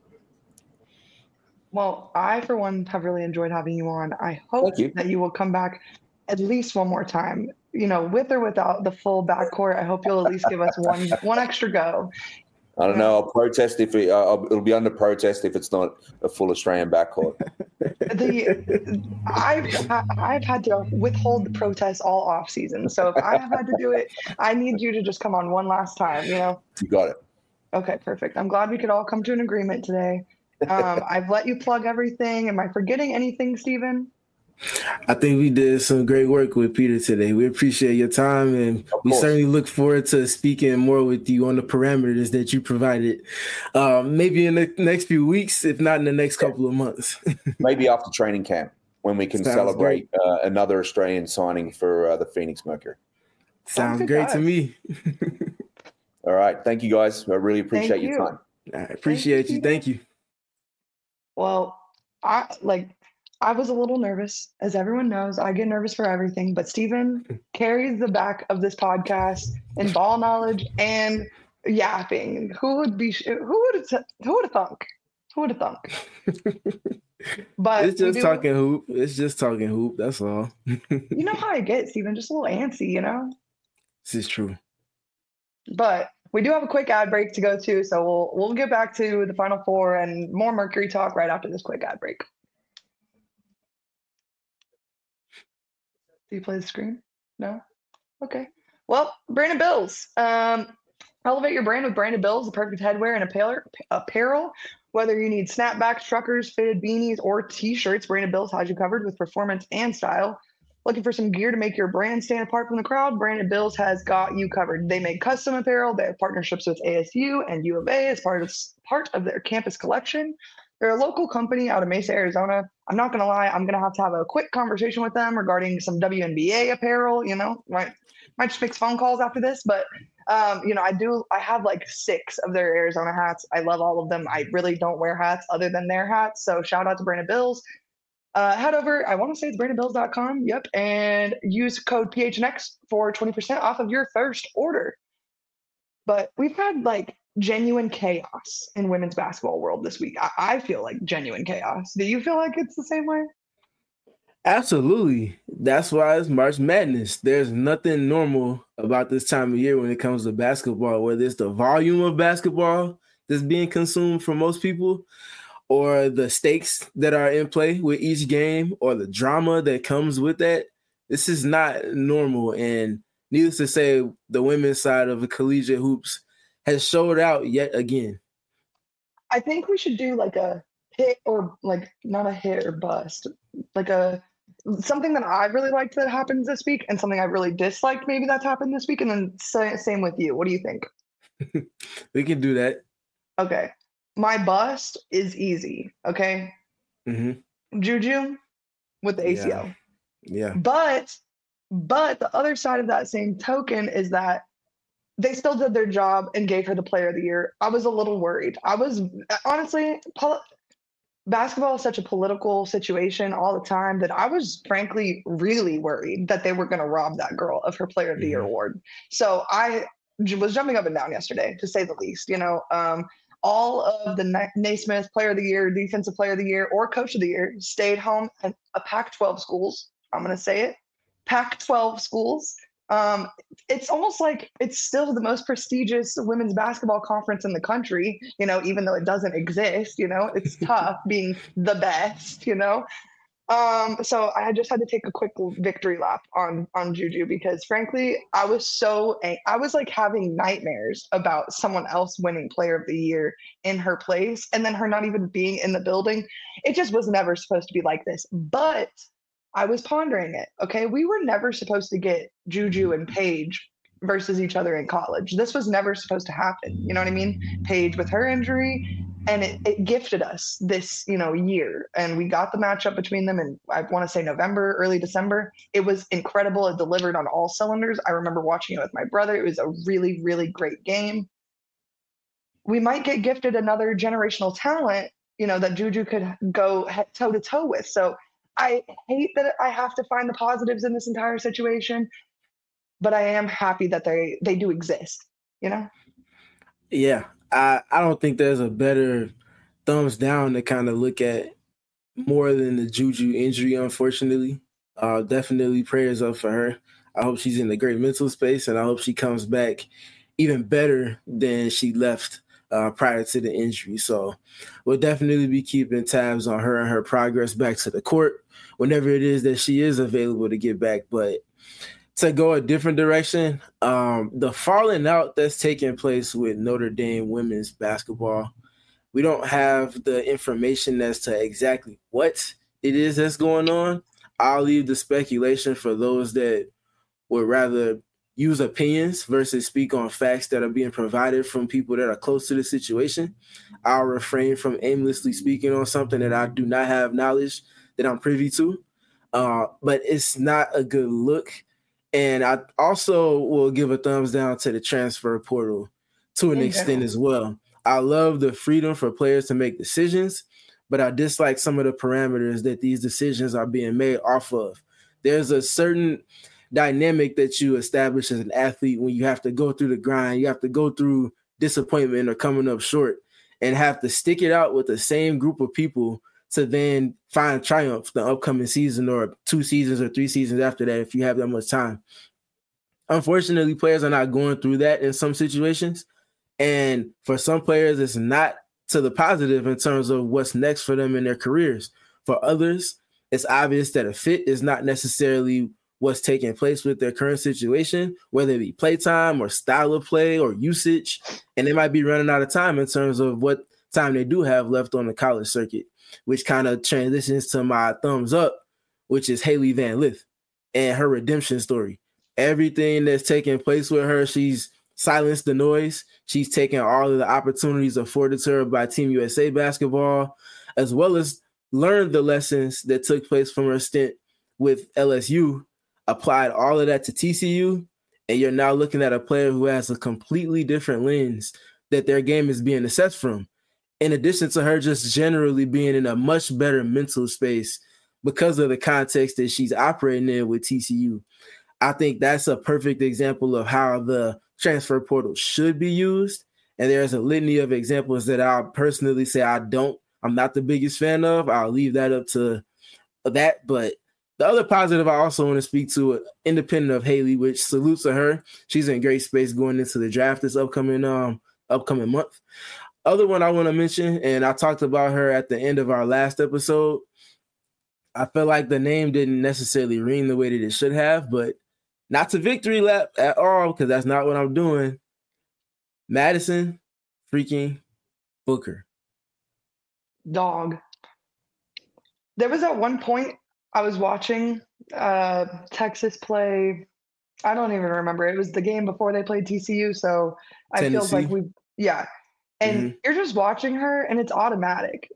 Well, I, for one, have really enjoyed having you on. I hope that you will come back at least one more time, with or without the full backcourt. I hope you'll at least give us one extra go. I don't know. I'll protest it'll be under protest if it's not a full Australian backcourt. I've had to withhold the protests all off season. So if I have had to do it, I need you to just come on one last time, You got it. Okay, perfect. I'm glad we could all come to an agreement today. I've let you plug everything. Am I forgetting anything, Stephen? I think we did some great work with Peter today. We appreciate your time, and we certainly look forward to speaking more with you on the parameters that you provided, maybe in the next few weeks, if not in the next couple of months. Maybe after training camp, when we can celebrate another Australian signing for the Phoenix Mercury. Sounds great to me. All right. Thank you, guys. I really appreciate your time. I appreciate you. Thank you. Well, I was a little nervous. As everyone knows, I get nervous for everything, but Stephen carries the back of this podcast in ball knowledge and yapping. Who would have thunk? But it's just talking hoop. It's just talking hoop. That's all. You know how I get, Stephen, just a little antsy, This is true. But we do have a quick ad break to go to, so we'll get back to the Final Four and more Mercury talk right after this quick ad break. Do you play the screen? No? Okay. Well, Brandon Bills. Elevate your brand with Brandon Bills, the perfect headwear and apparel. Whether you need snapbacks, truckers, fitted beanies, or T-shirts, Brandon Bills has you covered with performance and style. Looking for some gear to make your brand stand apart from the crowd? Brandon Bills has got you covered. They make custom apparel. They have partnerships with ASU and U of A as part of their campus collection. They're a local company out of Mesa, Arizona. I'm not going to lie. I'm going to have a quick conversation with them regarding some WNBA apparel, might just make phone calls after this, but I have like 6 of their Arizona hats. I love all of them. I really don't wear hats other than their hats. So shout out to Brandon Bills. Head over, I want to say it's BrandonBills.com. Yep. And use code PHNX for 20% off of your first order. But we've had like genuine chaos in women's basketball world this week. I feel like genuine chaos. Do you feel like it's the same way? Absolutely. That's why it's March Madness. There's nothing normal about this time of year when it comes to basketball, whether it's the volume of basketball that's being consumed for most people, or the stakes that are in play with each game, or the drama that comes with that. This is not normal. And needless to say, the women's side of the collegiate hoops has showed out yet again. I think we should do like a hit, or like not a hit or bust, like something that I really liked that happens this week and something I really disliked maybe that's happened this week. And then same with you. What do you think? We can do that. Okay. My bust is easy. Okay. Mm-hmm. Juju with the ACL. Yeah. But the other side of that same token is that they still did their job and gave her the player of the year. I was a little worried. I was honestly, basketball is such a political situation all the time that I was frankly really worried that they were going to rob that girl of her player of the year award. So I was jumping up and down yesterday, to say the least. All of the Naismith player of the year, defensive player of the year, or coach of the year stayed home at a Pac-12 schools. I'm going to say it. Pac-12 schools. It's almost like it's still the most prestigious women's basketball conference in the country, even though it doesn't exist, it's tough being the best, so I just had to take a quick victory lap on Juju, because frankly, I was like having nightmares about someone else winning player of the year in her place, and then her not even being in the building. It just was never supposed to be like this. But I was pondering it. Okay, we were never supposed to get Juju and Paige versus each other in college. This was never supposed to happen. You know what I mean? Paige with her injury, and it gifted us this, year. And we got the matchup between them in, I want to say, November, early December. It was incredible. It delivered on all cylinders. I remember watching it with my brother. It was a really, really great game. We might get gifted another generational talent, that Juju could go toe to toe with. So I hate that I have to find the positives in this entire situation, but I am happy that they do exist, Yeah, I don't think there's a better thumbs down to kind of look at more than the Juju injury, unfortunately. Definitely prayers up for her. I hope she's in a great mental space, and I hope she comes back even better than she left prior to the injury. So we'll definitely be keeping tabs on her and her progress back to the court whenever it is that she is available to get back. But to go a different direction, the falling out that's taking place with Notre Dame women's basketball, we don't have the information as to exactly what it is that's going on. I'll leave the speculation for those that would rather use opinions versus speak on facts that are being provided from people that are close to the situation. I'll refrain from aimlessly speaking on something that I do not have knowledge that I'm privy to. But it's not a good look. And I also will give a thumbs down to the transfer portal to an extent as well. I love the freedom for players to make decisions, but I dislike some of the parameters that these decisions are being made off of. There's a certain dynamic that you establish as an athlete when you have to go through the grind, you have to go through disappointment or coming up short, and have to stick it out with the same group of people to then find triumph the upcoming season or 2 seasons or 3 seasons after that if you have that much time. Unfortunately, players are not going through that in some situations. And for some players, it's not to the positive in terms of what's next for them in their careers. For others, it's obvious that a fit is not necessarily what's taking place with their current situation, whether it be playtime or style of play or usage. And they might be running out of time in terms of what time they do have left on the college circuit, which kind of transitions to my thumbs up, which is Hailey Van Lith and her redemption story. Everything that's taking place with her, she's silenced the noise. She's taken all of the opportunities afforded to her by Team USA basketball, as well as learned the lessons that took place from her stint with LSU, applied all of that to TCU, and you're now looking at a player who has a completely different lens that their game is being assessed from. In addition to her just generally being in a much better mental space because of the context that she's operating in with TCU. I think that's a perfect example of how the transfer portal should be used. And there's a litany of examples that I'll personally say I'm not the biggest fan of. I'll leave that up to that. But the other positive I also want to speak to, independent of Haley, which salutes to her. She's in great space going into the draft this upcoming month. Other one I want to mention, and I talked about her at the end of our last episode. I feel like the name didn't necessarily ring the way that it should have, but not to victory lap at all, because that's not what I'm doing. Madison freaking Booker. Dog. There was at one point I was watching Texas play. I don't even remember. It was the game before they played TCU, so I feel like And you're just watching her, and it's automatic.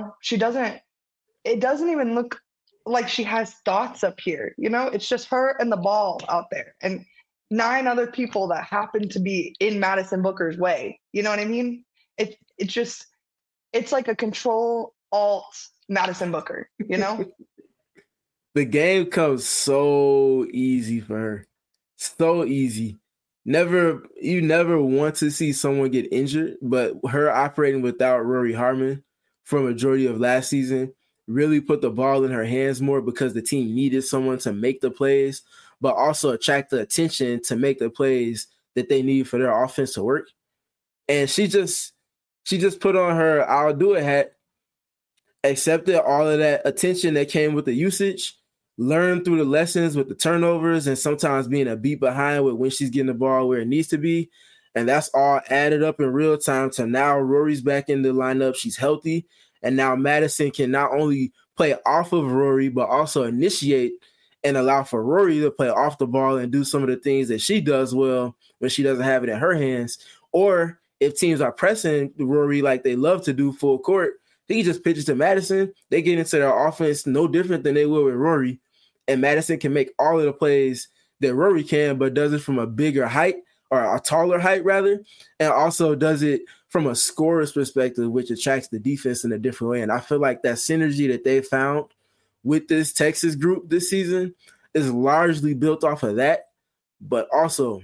It doesn't even look like she has thoughts up here. It's just her and the ball out there, and 9 other people that happen to be in Madison Booker's way. You know what I mean? It's like a control alt Madison Booker. The game comes so easy for her. So easy. You never want to see someone get injured, but her operating without Rory Harmon for a majority of last season really put the ball in her hands more because the team needed someone to make the plays, but also attract the attention to make the plays that they need for their offense to work. And she just put on her I'll do it hat, accepted all of that attention that came with the usage, learned through the lessons with the turnovers and sometimes being a beat behind with when she's getting the ball where it needs to be. And that's all added up in real time to now Rory's back in the lineup. She's healthy. And now Madison can not only play off of Rory, but also initiate and allow for Rory to play off the ball and do some of the things that she does well when she doesn't have it in her hands. Or if teams are pressing Rory like they love to do full court, he just pitches to Madison. They get into their offense no different than they will with Rory. And Madison can make all of the plays that Rory can, but does it from a bigger height or a taller height rather. And also does it from a scorer's perspective, which attracts the defense in a different way. And I feel like that synergy that they found with this Texas group this season is largely built off of that. But also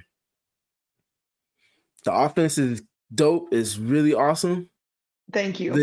the offense is dope. It's really awesome. Thank you. The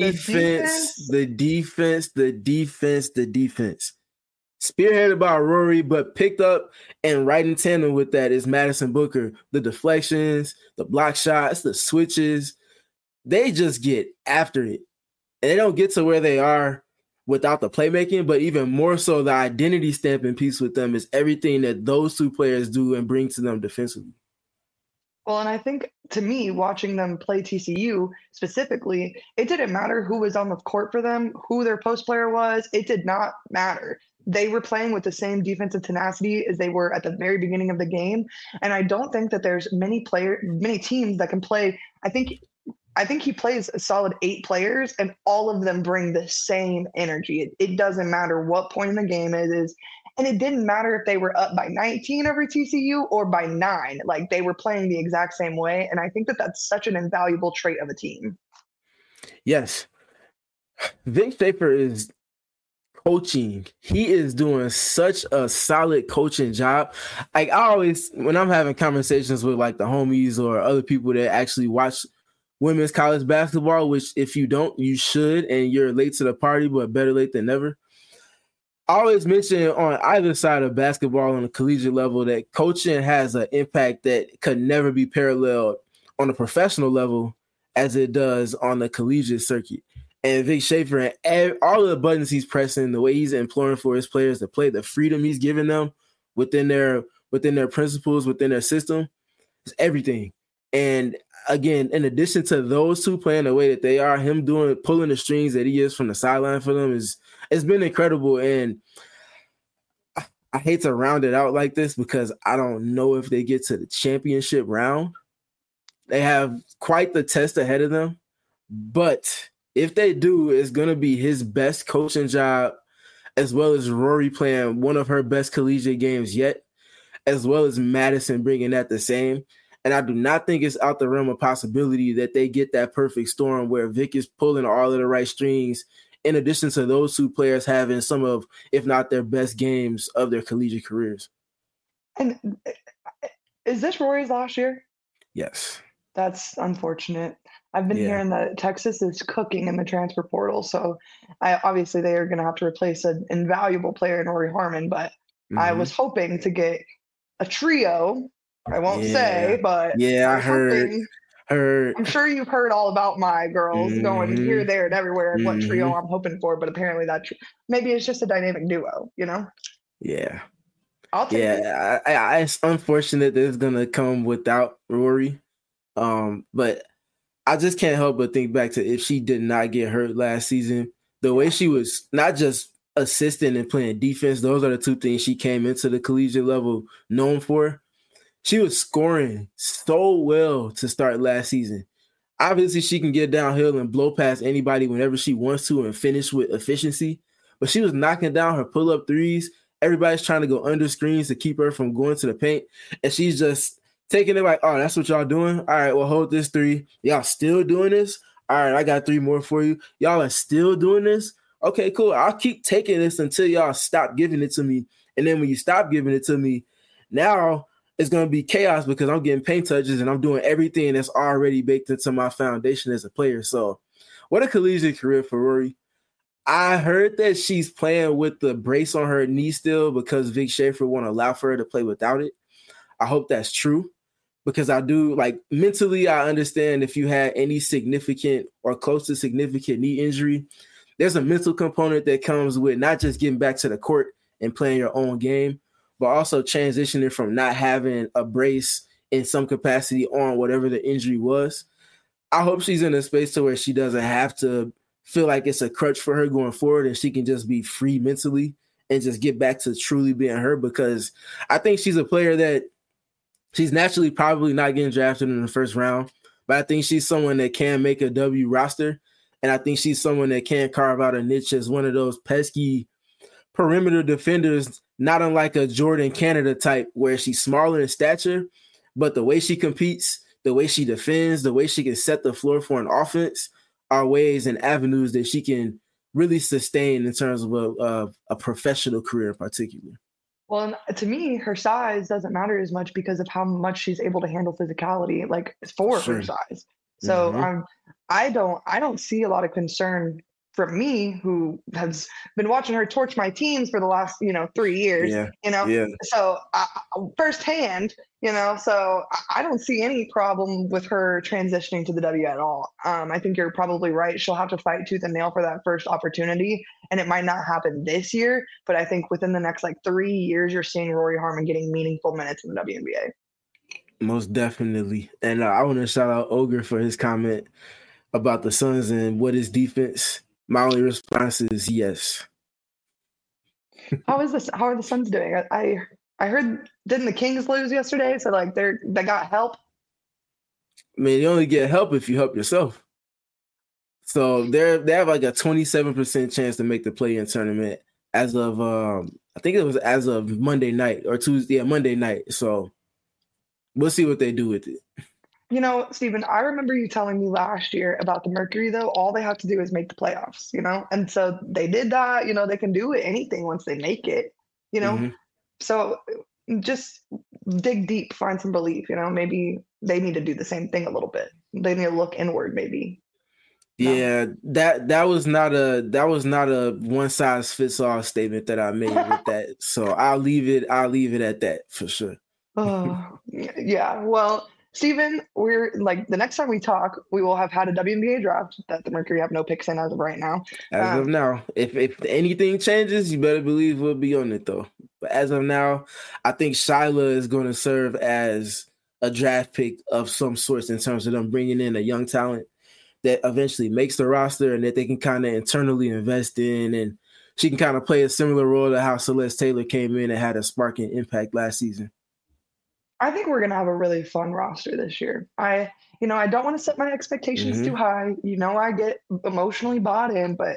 defense. Spearheaded by Rory, but picked up and right in tandem with that is Madison Booker. The deflections, the block shots, the switches, they just get after it. And they don't get to where they are without the playmaking, but even more so the identity stamping piece with them is everything that those two players do and bring to them defensively. Well, and I think to me, watching them play TCU specifically, it didn't matter who was on the court for them, who their post player was. It did not matter. They were playing with the same defensive tenacity as they were at the very beginning of the game. And I don't think that there's many teams that can play. I think he plays a solid 8 players, and all of them bring the same energy. It doesn't matter what point in the game it is. And it didn't matter if they were up by 19 over TCU or by 9. Like, they were playing the exact same way. And I think that that's such an invaluable trait of a team. Yes. Vic Schaefer is coaching. He is doing such a solid coaching job. Like, I always, when I'm having conversations with like the homies or other people that actually watch women's college basketball, which if you don't, you should, and you're late to the party, but better late than never. I always mention on either side of basketball on a collegiate level that coaching has an impact that could never be paralleled on a professional level as it does on the collegiate circuit. And Vic Schaefer and all of the buttons he's pressing, the way he's imploring for his players to play, the freedom he's giving them within their principles, within their system, is everything. And again, in addition to those two playing the way that they are, him pulling the strings that he is from the sideline for them it's been incredible. And I hate to round it out like this because I don't know if they get to the championship round. They have quite the test ahead of them. But if they do, it's going to be his best coaching job, as well as Rory playing one of her best collegiate games yet, as well as Madison bringing that the same. And I do not think it's out the realm of possibility that they get that perfect storm where Vic is pulling all of the right strings in addition to those two players having some of, if not their best games of their collegiate careers. And is this Rory's last year? Yes. That's unfortunate. I've been hearing that Texas is cooking in the transfer portal, so obviously they are going to have to replace an invaluable player in Rory Harmon, but I was hoping to get a trio. I won't say, but I heard. I'm sure you've heard all about my girls going here, there, and everywhere, and what trio I'm hoping for, but apparently maybe it's just a dynamic duo, you know? Yeah. I'll take it. It's unfortunate that it's going to come without Rory, but I just can't help but think back to if she did not get hurt last season, the way she was not just assisting and playing defense, those are the two things she came into the collegiate level known for. She was scoring so well to start last season. Obviously, she can get downhill and blow past anybody whenever she wants to and finish with efficiency, but she was knocking down her pull-up threes. Everybody's trying to go under screens to keep her from going to the paint, and she's just taking it like, oh, that's what y'all doing? All right, well, hold this three. Y'all still doing this? All right, I got three more for you. Y'all are still doing this? Okay, cool. I'll keep taking this until y'all stop giving it to me. And then when you stop giving it to me, now it's going to be chaos because I'm getting paint touches and I'm doing everything that's already baked into my foundation as a player. So what a collegiate career for Rory. I heard that she's playing with the brace on her knee still because Vic Schaefer won't allow for her to play without it. I hope that's true. Because I do, like, mentally, I understand if you had any significant or close to significant knee injury, there's a mental component that comes with not just getting back to the court and playing your own game, but also transitioning from not having a brace in some capacity on whatever the injury was. I hope she's in a space to where she doesn't have to feel like it's a crutch for her going forward and she can just be free mentally and just get back to truly being her, because I think she's a player that she's naturally probably not getting drafted in the first round, but I think she's someone that can make a W roster, and I think she's someone that can carve out a niche as one of those pesky perimeter defenders, not unlike a Jordan Canada type, where she's smaller in stature, but the way she competes, the way she defends, the way she can set the floor for an offense are ways and avenues that she can really sustain in terms of a professional career in particular. Well, and to me, her size doesn't matter as much because of how much she's able to handle physicality, like for her size. So I don't see a lot of concern from me, who has been watching her torch my teams for the last 3 years. So firsthand, so I don't see any problem with her transitioning to the W at all. I think you're probably right. She'll have to fight tooth and nail for that first opportunity, and it might not happen this year, but I think within the next 3 years, you're seeing Rory Harmon getting meaningful minutes in the WNBA. Most definitely. And I want to shout out Ogre for his comment about the Suns and what is defense. My only response is yes. How are the Suns doing? I heard, didn't the Kings lose yesterday? So they got help. I mean, you only get help if you help yourself. So they have a 27% chance to make the play-in tournament as of I think it was as of Monday night or Tuesday, Monday night. So we'll see what they do with it. Stephen, I remember you telling me last year about the Mercury, though. All they have to do is make the playoffs, and so they did that. They can do anything once they make it, So just dig deep, find some belief, maybe they need to do the same thing a little bit. They need to look inward, maybe. Yeah, that was not a one size fits all statement that I made with that. So I'll leave it at that for sure. Yeah. Well, Stephen, we're the next time we talk, we will have had a WNBA draft that the Mercury have no picks in as of right now. As of now, if anything changes, you better believe we'll be on it though. But as of now, I think Shyla is going to serve as a draft pick of some sort in terms of them bringing in a young talent that eventually makes the roster and that they can kind of internally invest in, and she can kind of play a similar role to how Celeste Taylor came in and had a sparking impact last season. I think we're going to have a really fun roster this year. I don't want to set my expectations too high. I get emotionally bought in, but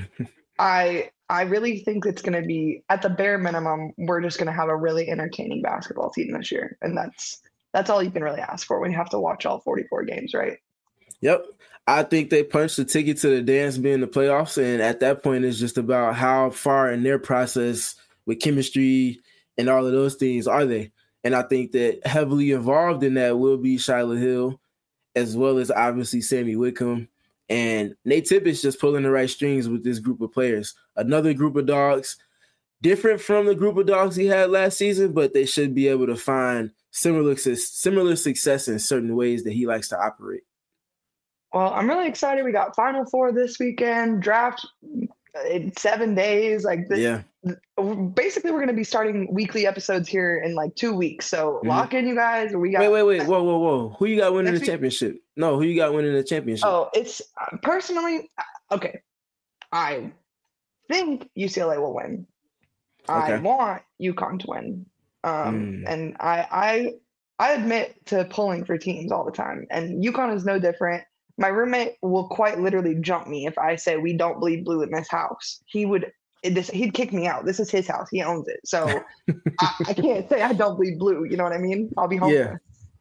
I really think it's going to be, at the bare minimum, we're just going to have a really entertaining basketball team this year. And that's all you can really ask for when you have to watch all 44 games, right? Yep. I think they punched the ticket to the dance being the playoffs, and at that point, it's just about how far in their process with chemistry and all of those things are they. And I think that heavily involved in that will be Shyla Hill, as well as obviously Sammy Wickham. And Nate Tippett's just pulling the right strings with this group of players. Another group of dogs, different from the group of dogs he had last season, but they should be able to find similar success in certain ways that he likes to operate. Well, I'm really excited. We got Final Four this weekend, draft in 7 days. Basically, we're going to be starting weekly episodes here in like 2 weeks. So lock in, you guys. We got wait. Whoa. Who you got winning the championship? No, who you got winning the championship? Oh, it's personally, okay. I think UCLA will win. Okay. I want UConn to win. And I admit to pulling for teams all the time. And UConn is no different. My roommate will quite literally jump me if I say we don't bleed blue in this house. He'd kick me out. This is his house. He owns it. So I can't say I don't bleed blue. You know what I mean? I'll be home. Yeah.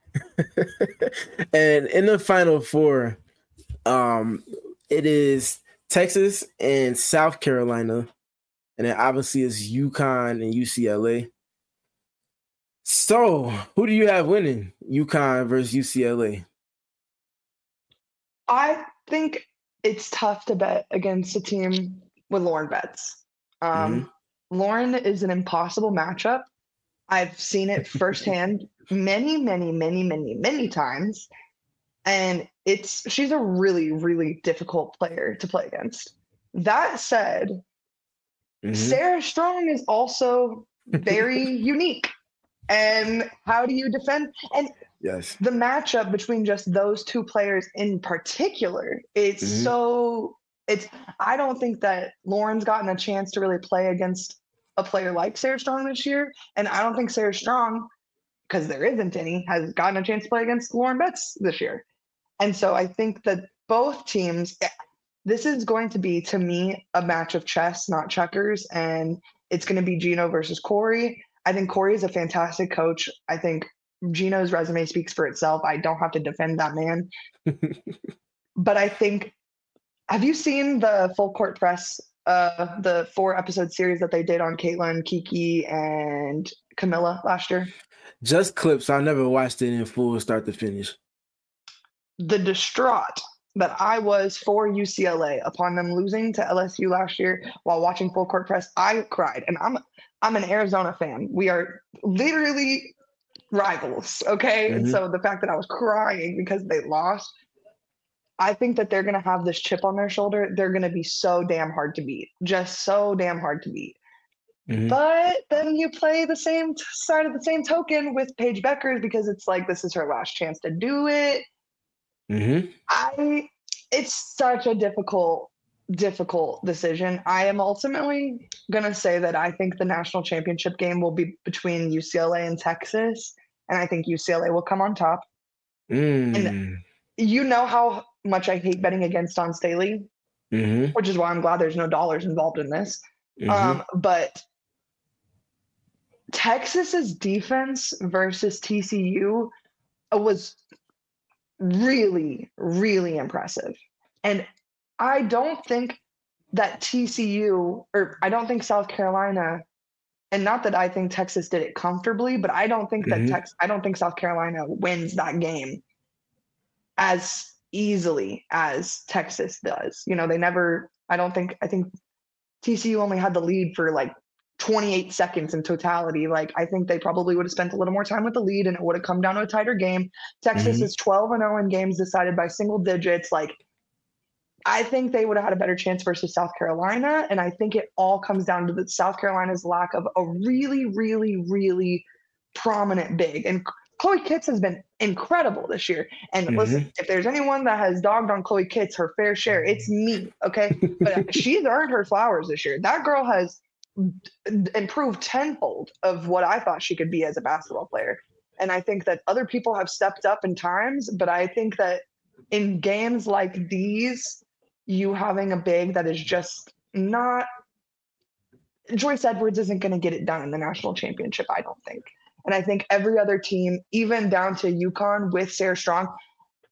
And in the Final Four, it is Texas and South Carolina. And then obviously it's UConn and UCLA. So who do you have winning? UConn versus UCLA? I think it's tough to bet against a team with Lauren Betts. Lauren is an impossible matchup. I've seen it firsthand many times. And she's a really, really difficult player to play against. That said, Sarah Strong is also very unique. And how do you defend? And yes, the matchup between just those two players in particular, I don't think that Lauren's gotten a chance to really play against a player like Sarah Strong this year. And I don't think Sarah Strong, because there isn't any, has gotten a chance to play against Lauren Betts this year. And so I think that both teams, this is going to be, to me, a match of chess, not checkers. And it's going to be Gino versus Corey. I think Corey is a fantastic coach. I think Gino's resume speaks for itself. I don't have to defend that man. But I think, have you seen the Full Court Press, the 4-episode series that they did on Caitlin, Kiki, and Camilla last year? Just clips. I never watched it in full start to finish. The distraught that I was for UCLA upon them losing to LSU last year while watching Full Court Press, I cried. And I'm an Arizona fan. We are literally rivals, okay? And so the fact that I was crying because they lost, I think that they're going to have this chip on their shoulder. They're going to be so damn hard to beat, just so damn hard to beat. But then you play the same side of the same token with Paige Beckers because it's like this is her last chance to do it. It's such a difficult decision. I am ultimately going to say that I think the national championship game will be between UCLA and Texas, and I think UCLA will come on top. And you know how much I hate betting against Dawn Staley, which is why I'm glad there's no dollars involved in this. But Texas's defense versus TCU was really, really impressive. And I don't think that TCU, or I don't think South Carolina, and not that I think Texas did it comfortably, but I don't think that I don't think South Carolina wins that game as easily as Texas does. You know, I think TCU only had the lead for like 28 seconds in totality. Like, I think they probably would have spent a little more time with the lead and it would have come down to a tighter game. Texas is 12-0 in games decided by single digits. Like, I think they would have had a better chance versus South Carolina. And I think it all comes down to South Carolina's lack of a really, really, really prominent big. And Chloe Kitts has been incredible this year. And listen, if there's anyone that has dogged on Chloe Kitts her fair share, it's me, okay? But she's earned her flowers this year. That girl has improved tenfold of what I thought she could be as a basketball player. And I think that other people have stepped up in times, but I think that in games like these, you having a big that is just not – Joyce Edwards isn't going to get it done in the national championship, I don't think. And I think every other team, even down to UConn with Sarah Strong,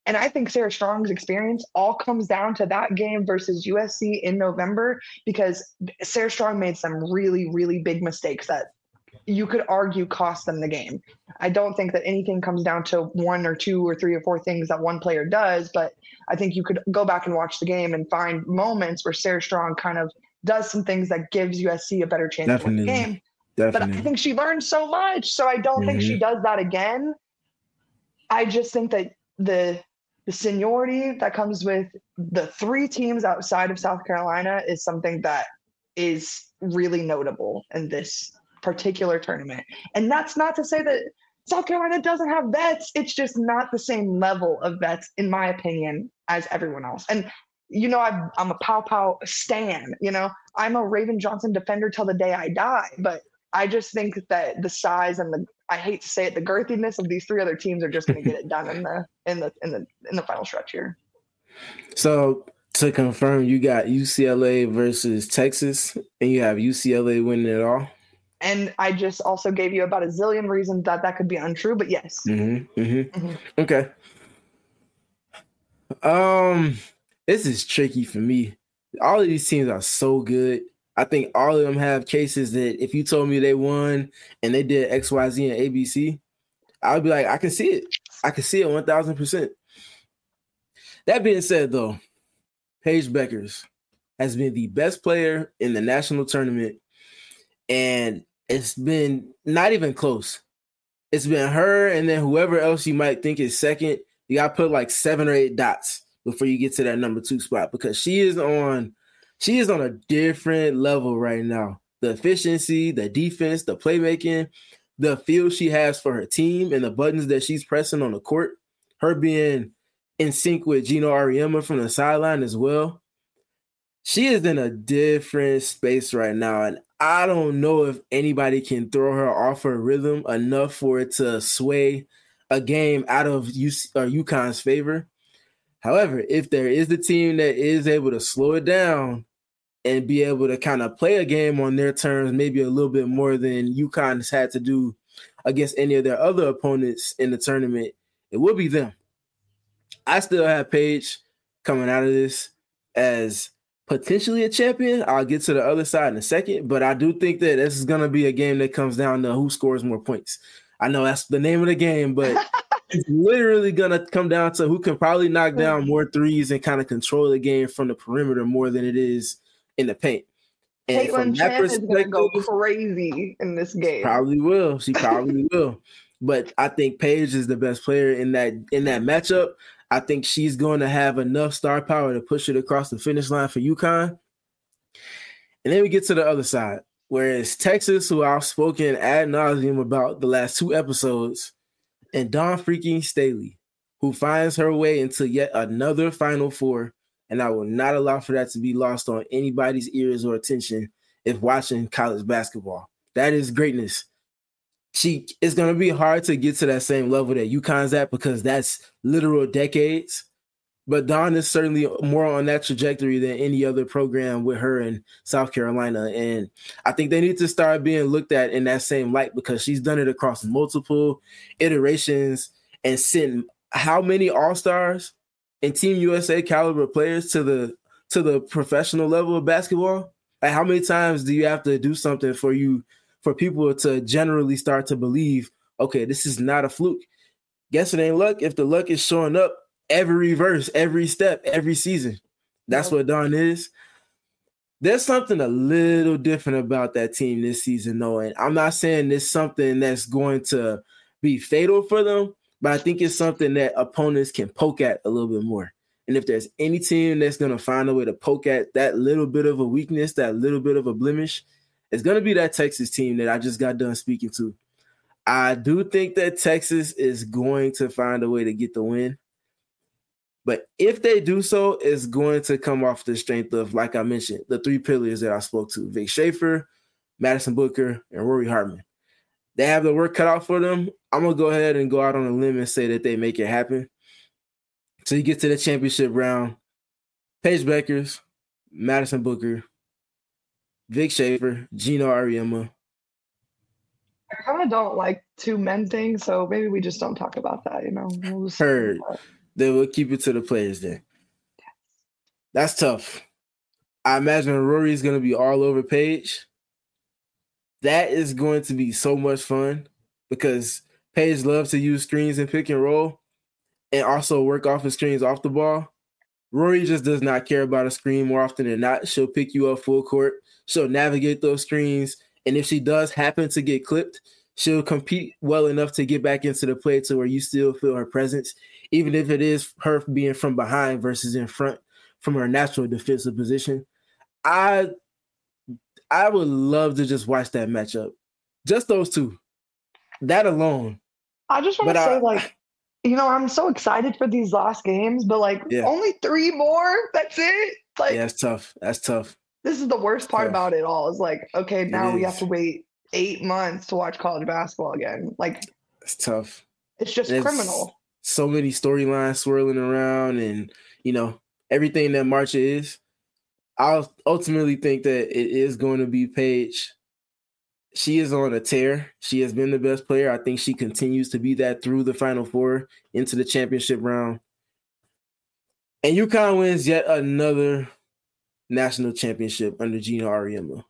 And I think Sarah Strong's experience all comes down to that game versus USC in November, because Sarah Strong made some really, really big mistakes that you could argue cost them the game. I don't think that anything comes down to one or two or three or four things that one player does, but I think you could go back and watch the game and find moments where Sarah Strong kind of does some things that gives USC a better chance to win the game. But I think she learned so much, so I don't think she does that again. I just think that the seniority that comes with the three teams outside of South Carolina is something that is really notable in this particular tournament. And that's not to say that South Carolina doesn't have vets. It's just not the same level of vets, in my opinion, as everyone else. And, you know, I'm a Pow Pow stan, you know, I'm a Raven Johnson defender till the day I die. But I just think that the size and I hate to say it, the girthiness of these three other teams are just going to get it done in the final stretch here. So to confirm, you got UCLA versus Texas, and you have UCLA winning it all. And I just also gave you about a zillion reasons that could be untrue, but yes. Okay. This is tricky for me. All of these teams are so good. I think all of them have cases that if you told me they won and they did X, Y, Z, and ABC, I would be like, I can see it. I can see it 1,000%. That being said, though, Paige Bueckers has been the best player in the national tournament, and it's been not even close. It's been her and then whoever else you might think is second. You got to put like 7 or 8 dots before you get to that number 2 spot, because she is on a different level right now. The efficiency, the defense, the playmaking, the feel she has for her team, and the buttons that she's pressing on the court, her being in sync with Gino Auriemma from the sideline as well. She is in a different space right now, and I don't know if anybody can throw her off her rhythm enough for it to sway a game out of UConn's favor. However, if there is the team that is able to slow it down and be able to kind of play a game on their terms, maybe a little bit more than UConn has had to do against any of their other opponents in the tournament, it will be them. I still have Paige coming out of this as potentially a champion. I'll get to the other side in a second, but I do think that this is going to be a game that comes down to who scores more points. I know that's the name of the game, but it's literally going to come down to who can probably knock down more threes and kind of control the game from the perimeter more than it is in the paint. And Caitlin Chen is going to go crazy in this game. She probably will. But I think Paige is the best player in that matchup. I think she's going to have enough star power to push it across the finish line for UConn. And then we get to the other side, whereas Texas, who I've spoken ad nauseum about the last 2 episodes, and Dawn freaking Staley, who finds her way into yet another Final Four. And I will not allow for that to be lost on anybody's ears or attention if watching college basketball. That is greatness. It's going to be hard to get to that same level that UConn's at, because that's literal decades. But Dawn is certainly more on that trajectory than any other program with her in South Carolina. And I think they need to start being looked at in that same light, because she's done it across multiple iterations and sent how many All-Stars and Team USA caliber players to the professional level of basketball. Like, how many times do you have to do something for people to generally start to believe, okay, this is not a fluke? Guess it ain't luck if the luck is showing up every verse, every step, every season. That's what Dawn is. There's something a little different about that team this season, though. And I'm not saying it's something that's going to be fatal for them, but I think it's something that opponents can poke at a little bit more. And if there's any team that's going to find a way to poke at that little bit of a weakness, that little bit of a blemish, it's going to be that Texas team that I just got done speaking to. I do think that Texas is going to find a way to get the win. But if they do so, it's going to come off the strength of, like I mentioned, the 3 pillars that I spoke to: Vic Schaefer, Madison Booker, and Rory Hartman. They have the work cut out for them. I'm going to go ahead and go out on a limb and say that they make it happen. So you get to the championship round: Paige Bueckers, Madison Booker, Vic Schaefer, Gino Auriemma. I kind of don't like 2 men things, so maybe we just don't talk about that, you know. Heard. Then we'll keep it to the players then. That's tough. I imagine Rory's going to be all over Paige. That is going to be so much fun because Paige loves to use screens and pick and roll and also work off of screens off the ball. Rory just does not care about a screen more often than not. She'll pick you up full court. She'll navigate those screens. And if she does happen to get clipped, she'll compete well enough to get back into the play to where you still feel her presence, even if it is her being from behind versus in front from her natural defensive position. I would love to just watch that matchup. Just those two. That alone. I just want to say, I'm so excited for these last games, but only 3 more. That's it. Yeah, that's tough. That's tough. This is the worst part about it all. Is okay, now we have to wait 8 months to watch college basketball again. It's tough. It's just criminal. So many storylines swirling around, and everything that March is. I'll ultimately think that it is going to be Paige. She is on a tear. She has been the best player. I think she continues to be that through the Final Four into the championship round. And UConn wins yet another national championship under Gina Auriemma.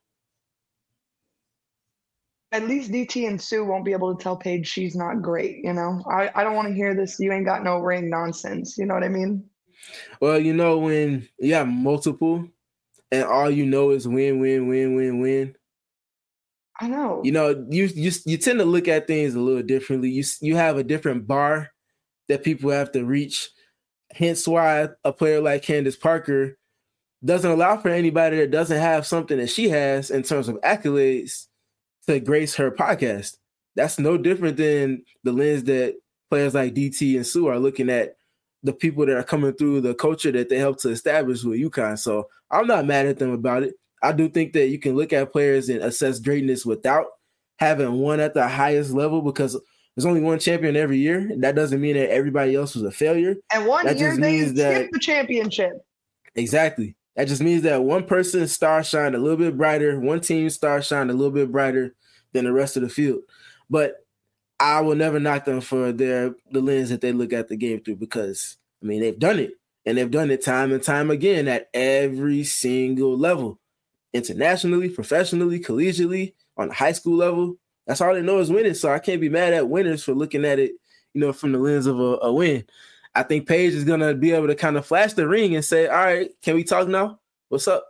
At least DT and Sue won't be able to tell Paige she's not great, I don't want to hear this "you ain't got no ring" nonsense. You know what I mean? Well, when you have multiple and all you know is win, win, win, win, win. I know. You tend to look at things a little differently. You have a different bar that people have to reach. Hence why a player like Candace Parker doesn't allow for anybody that doesn't have something that she has in terms of accolades to grace her podcast. That's no different than the lens that players like DT and Sue are looking at the people that are coming through the culture that they helped to establish with UConn. So I'm not mad at them about it. I do think that you can look at players and assess greatness without having one at the highest level because there's only one champion every year. That doesn't mean that everybody else was a failure. And one year they skipped the championship. Exactly. That just means that one person's star shined a little bit brighter, one team's star shined a little bit brighter than the rest of the field. But I will never knock them for the lens that they look at the game through because, they've done it. And they've done it time and time again at every single level. Internationally, professionally, collegiately, on the high school level. That's all they know is winning. So I can't be mad at winners for looking at it, from the lens of a win. I think Paige is going to be able to kind of flash the ring and say, all right, can we talk now? What's up?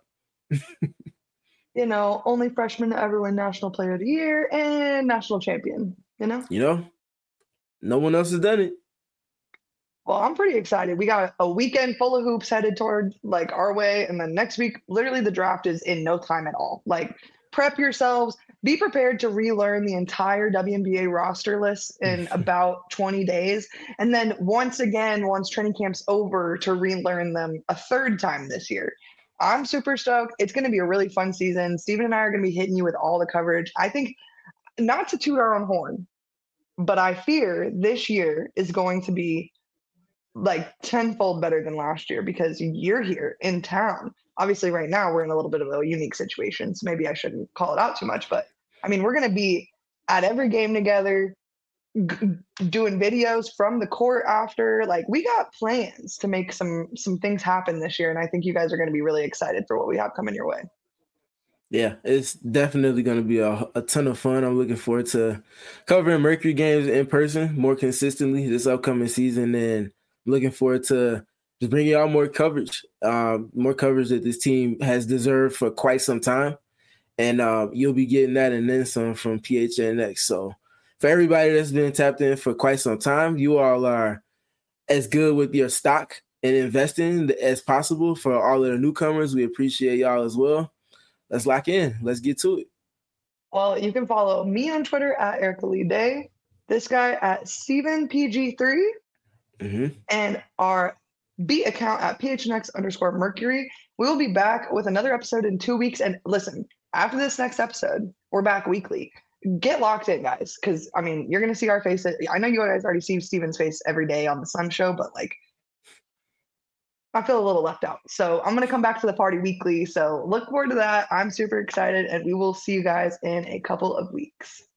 Only freshman to ever win National Player of the Year and national champion, No one else has done it. Well, I'm pretty excited. We got a weekend full of hoops headed toward our way. And then next week, literally the draft is in no time at all. Prep yourselves, be prepared to relearn the entire WNBA roster list in about 20 days. And then once training camp's over, to relearn them a third time this year. I'm super stoked. It's going to be a really fun season. Steven and I are going to be hitting you with all the coverage. I think, not to toot our own horn, but I fear this year is going to be tenfold better than last year because you're here in town. Obviously right now we're in a little bit of a unique situation, so maybe I shouldn't call it out too much, but we're going to be at every game together, doing videos from the court after. We got plans to make some things happen this year, and I think you guys are going to be really excited for what we have coming your way. Yeah, it's definitely going to be a ton of fun. I'm looking forward to covering Mercury games in person more consistently this upcoming season, and looking forward to just bringing y'all more coverage that this team has deserved for quite some time. And you'll be getting that and then some from PHNX. So for everybody that's been tapped in for quite some time, you all are as good with your stock and investing as possible. For all of the newcomers, we appreciate y'all as well. Let's lock in. Let's get to it. Well, you can follow me on Twitter at Erica Lee Day, this guy at StevenPG3, and our beat account at PHNX_Mercury. We will be back with another episode in 2 weeks. And listen, after this next episode, we're back weekly. Get locked in, guys, because you're going to see our faces. I know you guys already see Steven's face every day on the Sun Show, but I feel a little left out. So I'm going to come back to the party weekly. So look forward to that. I'm super excited, and we will see you guys in a couple of weeks.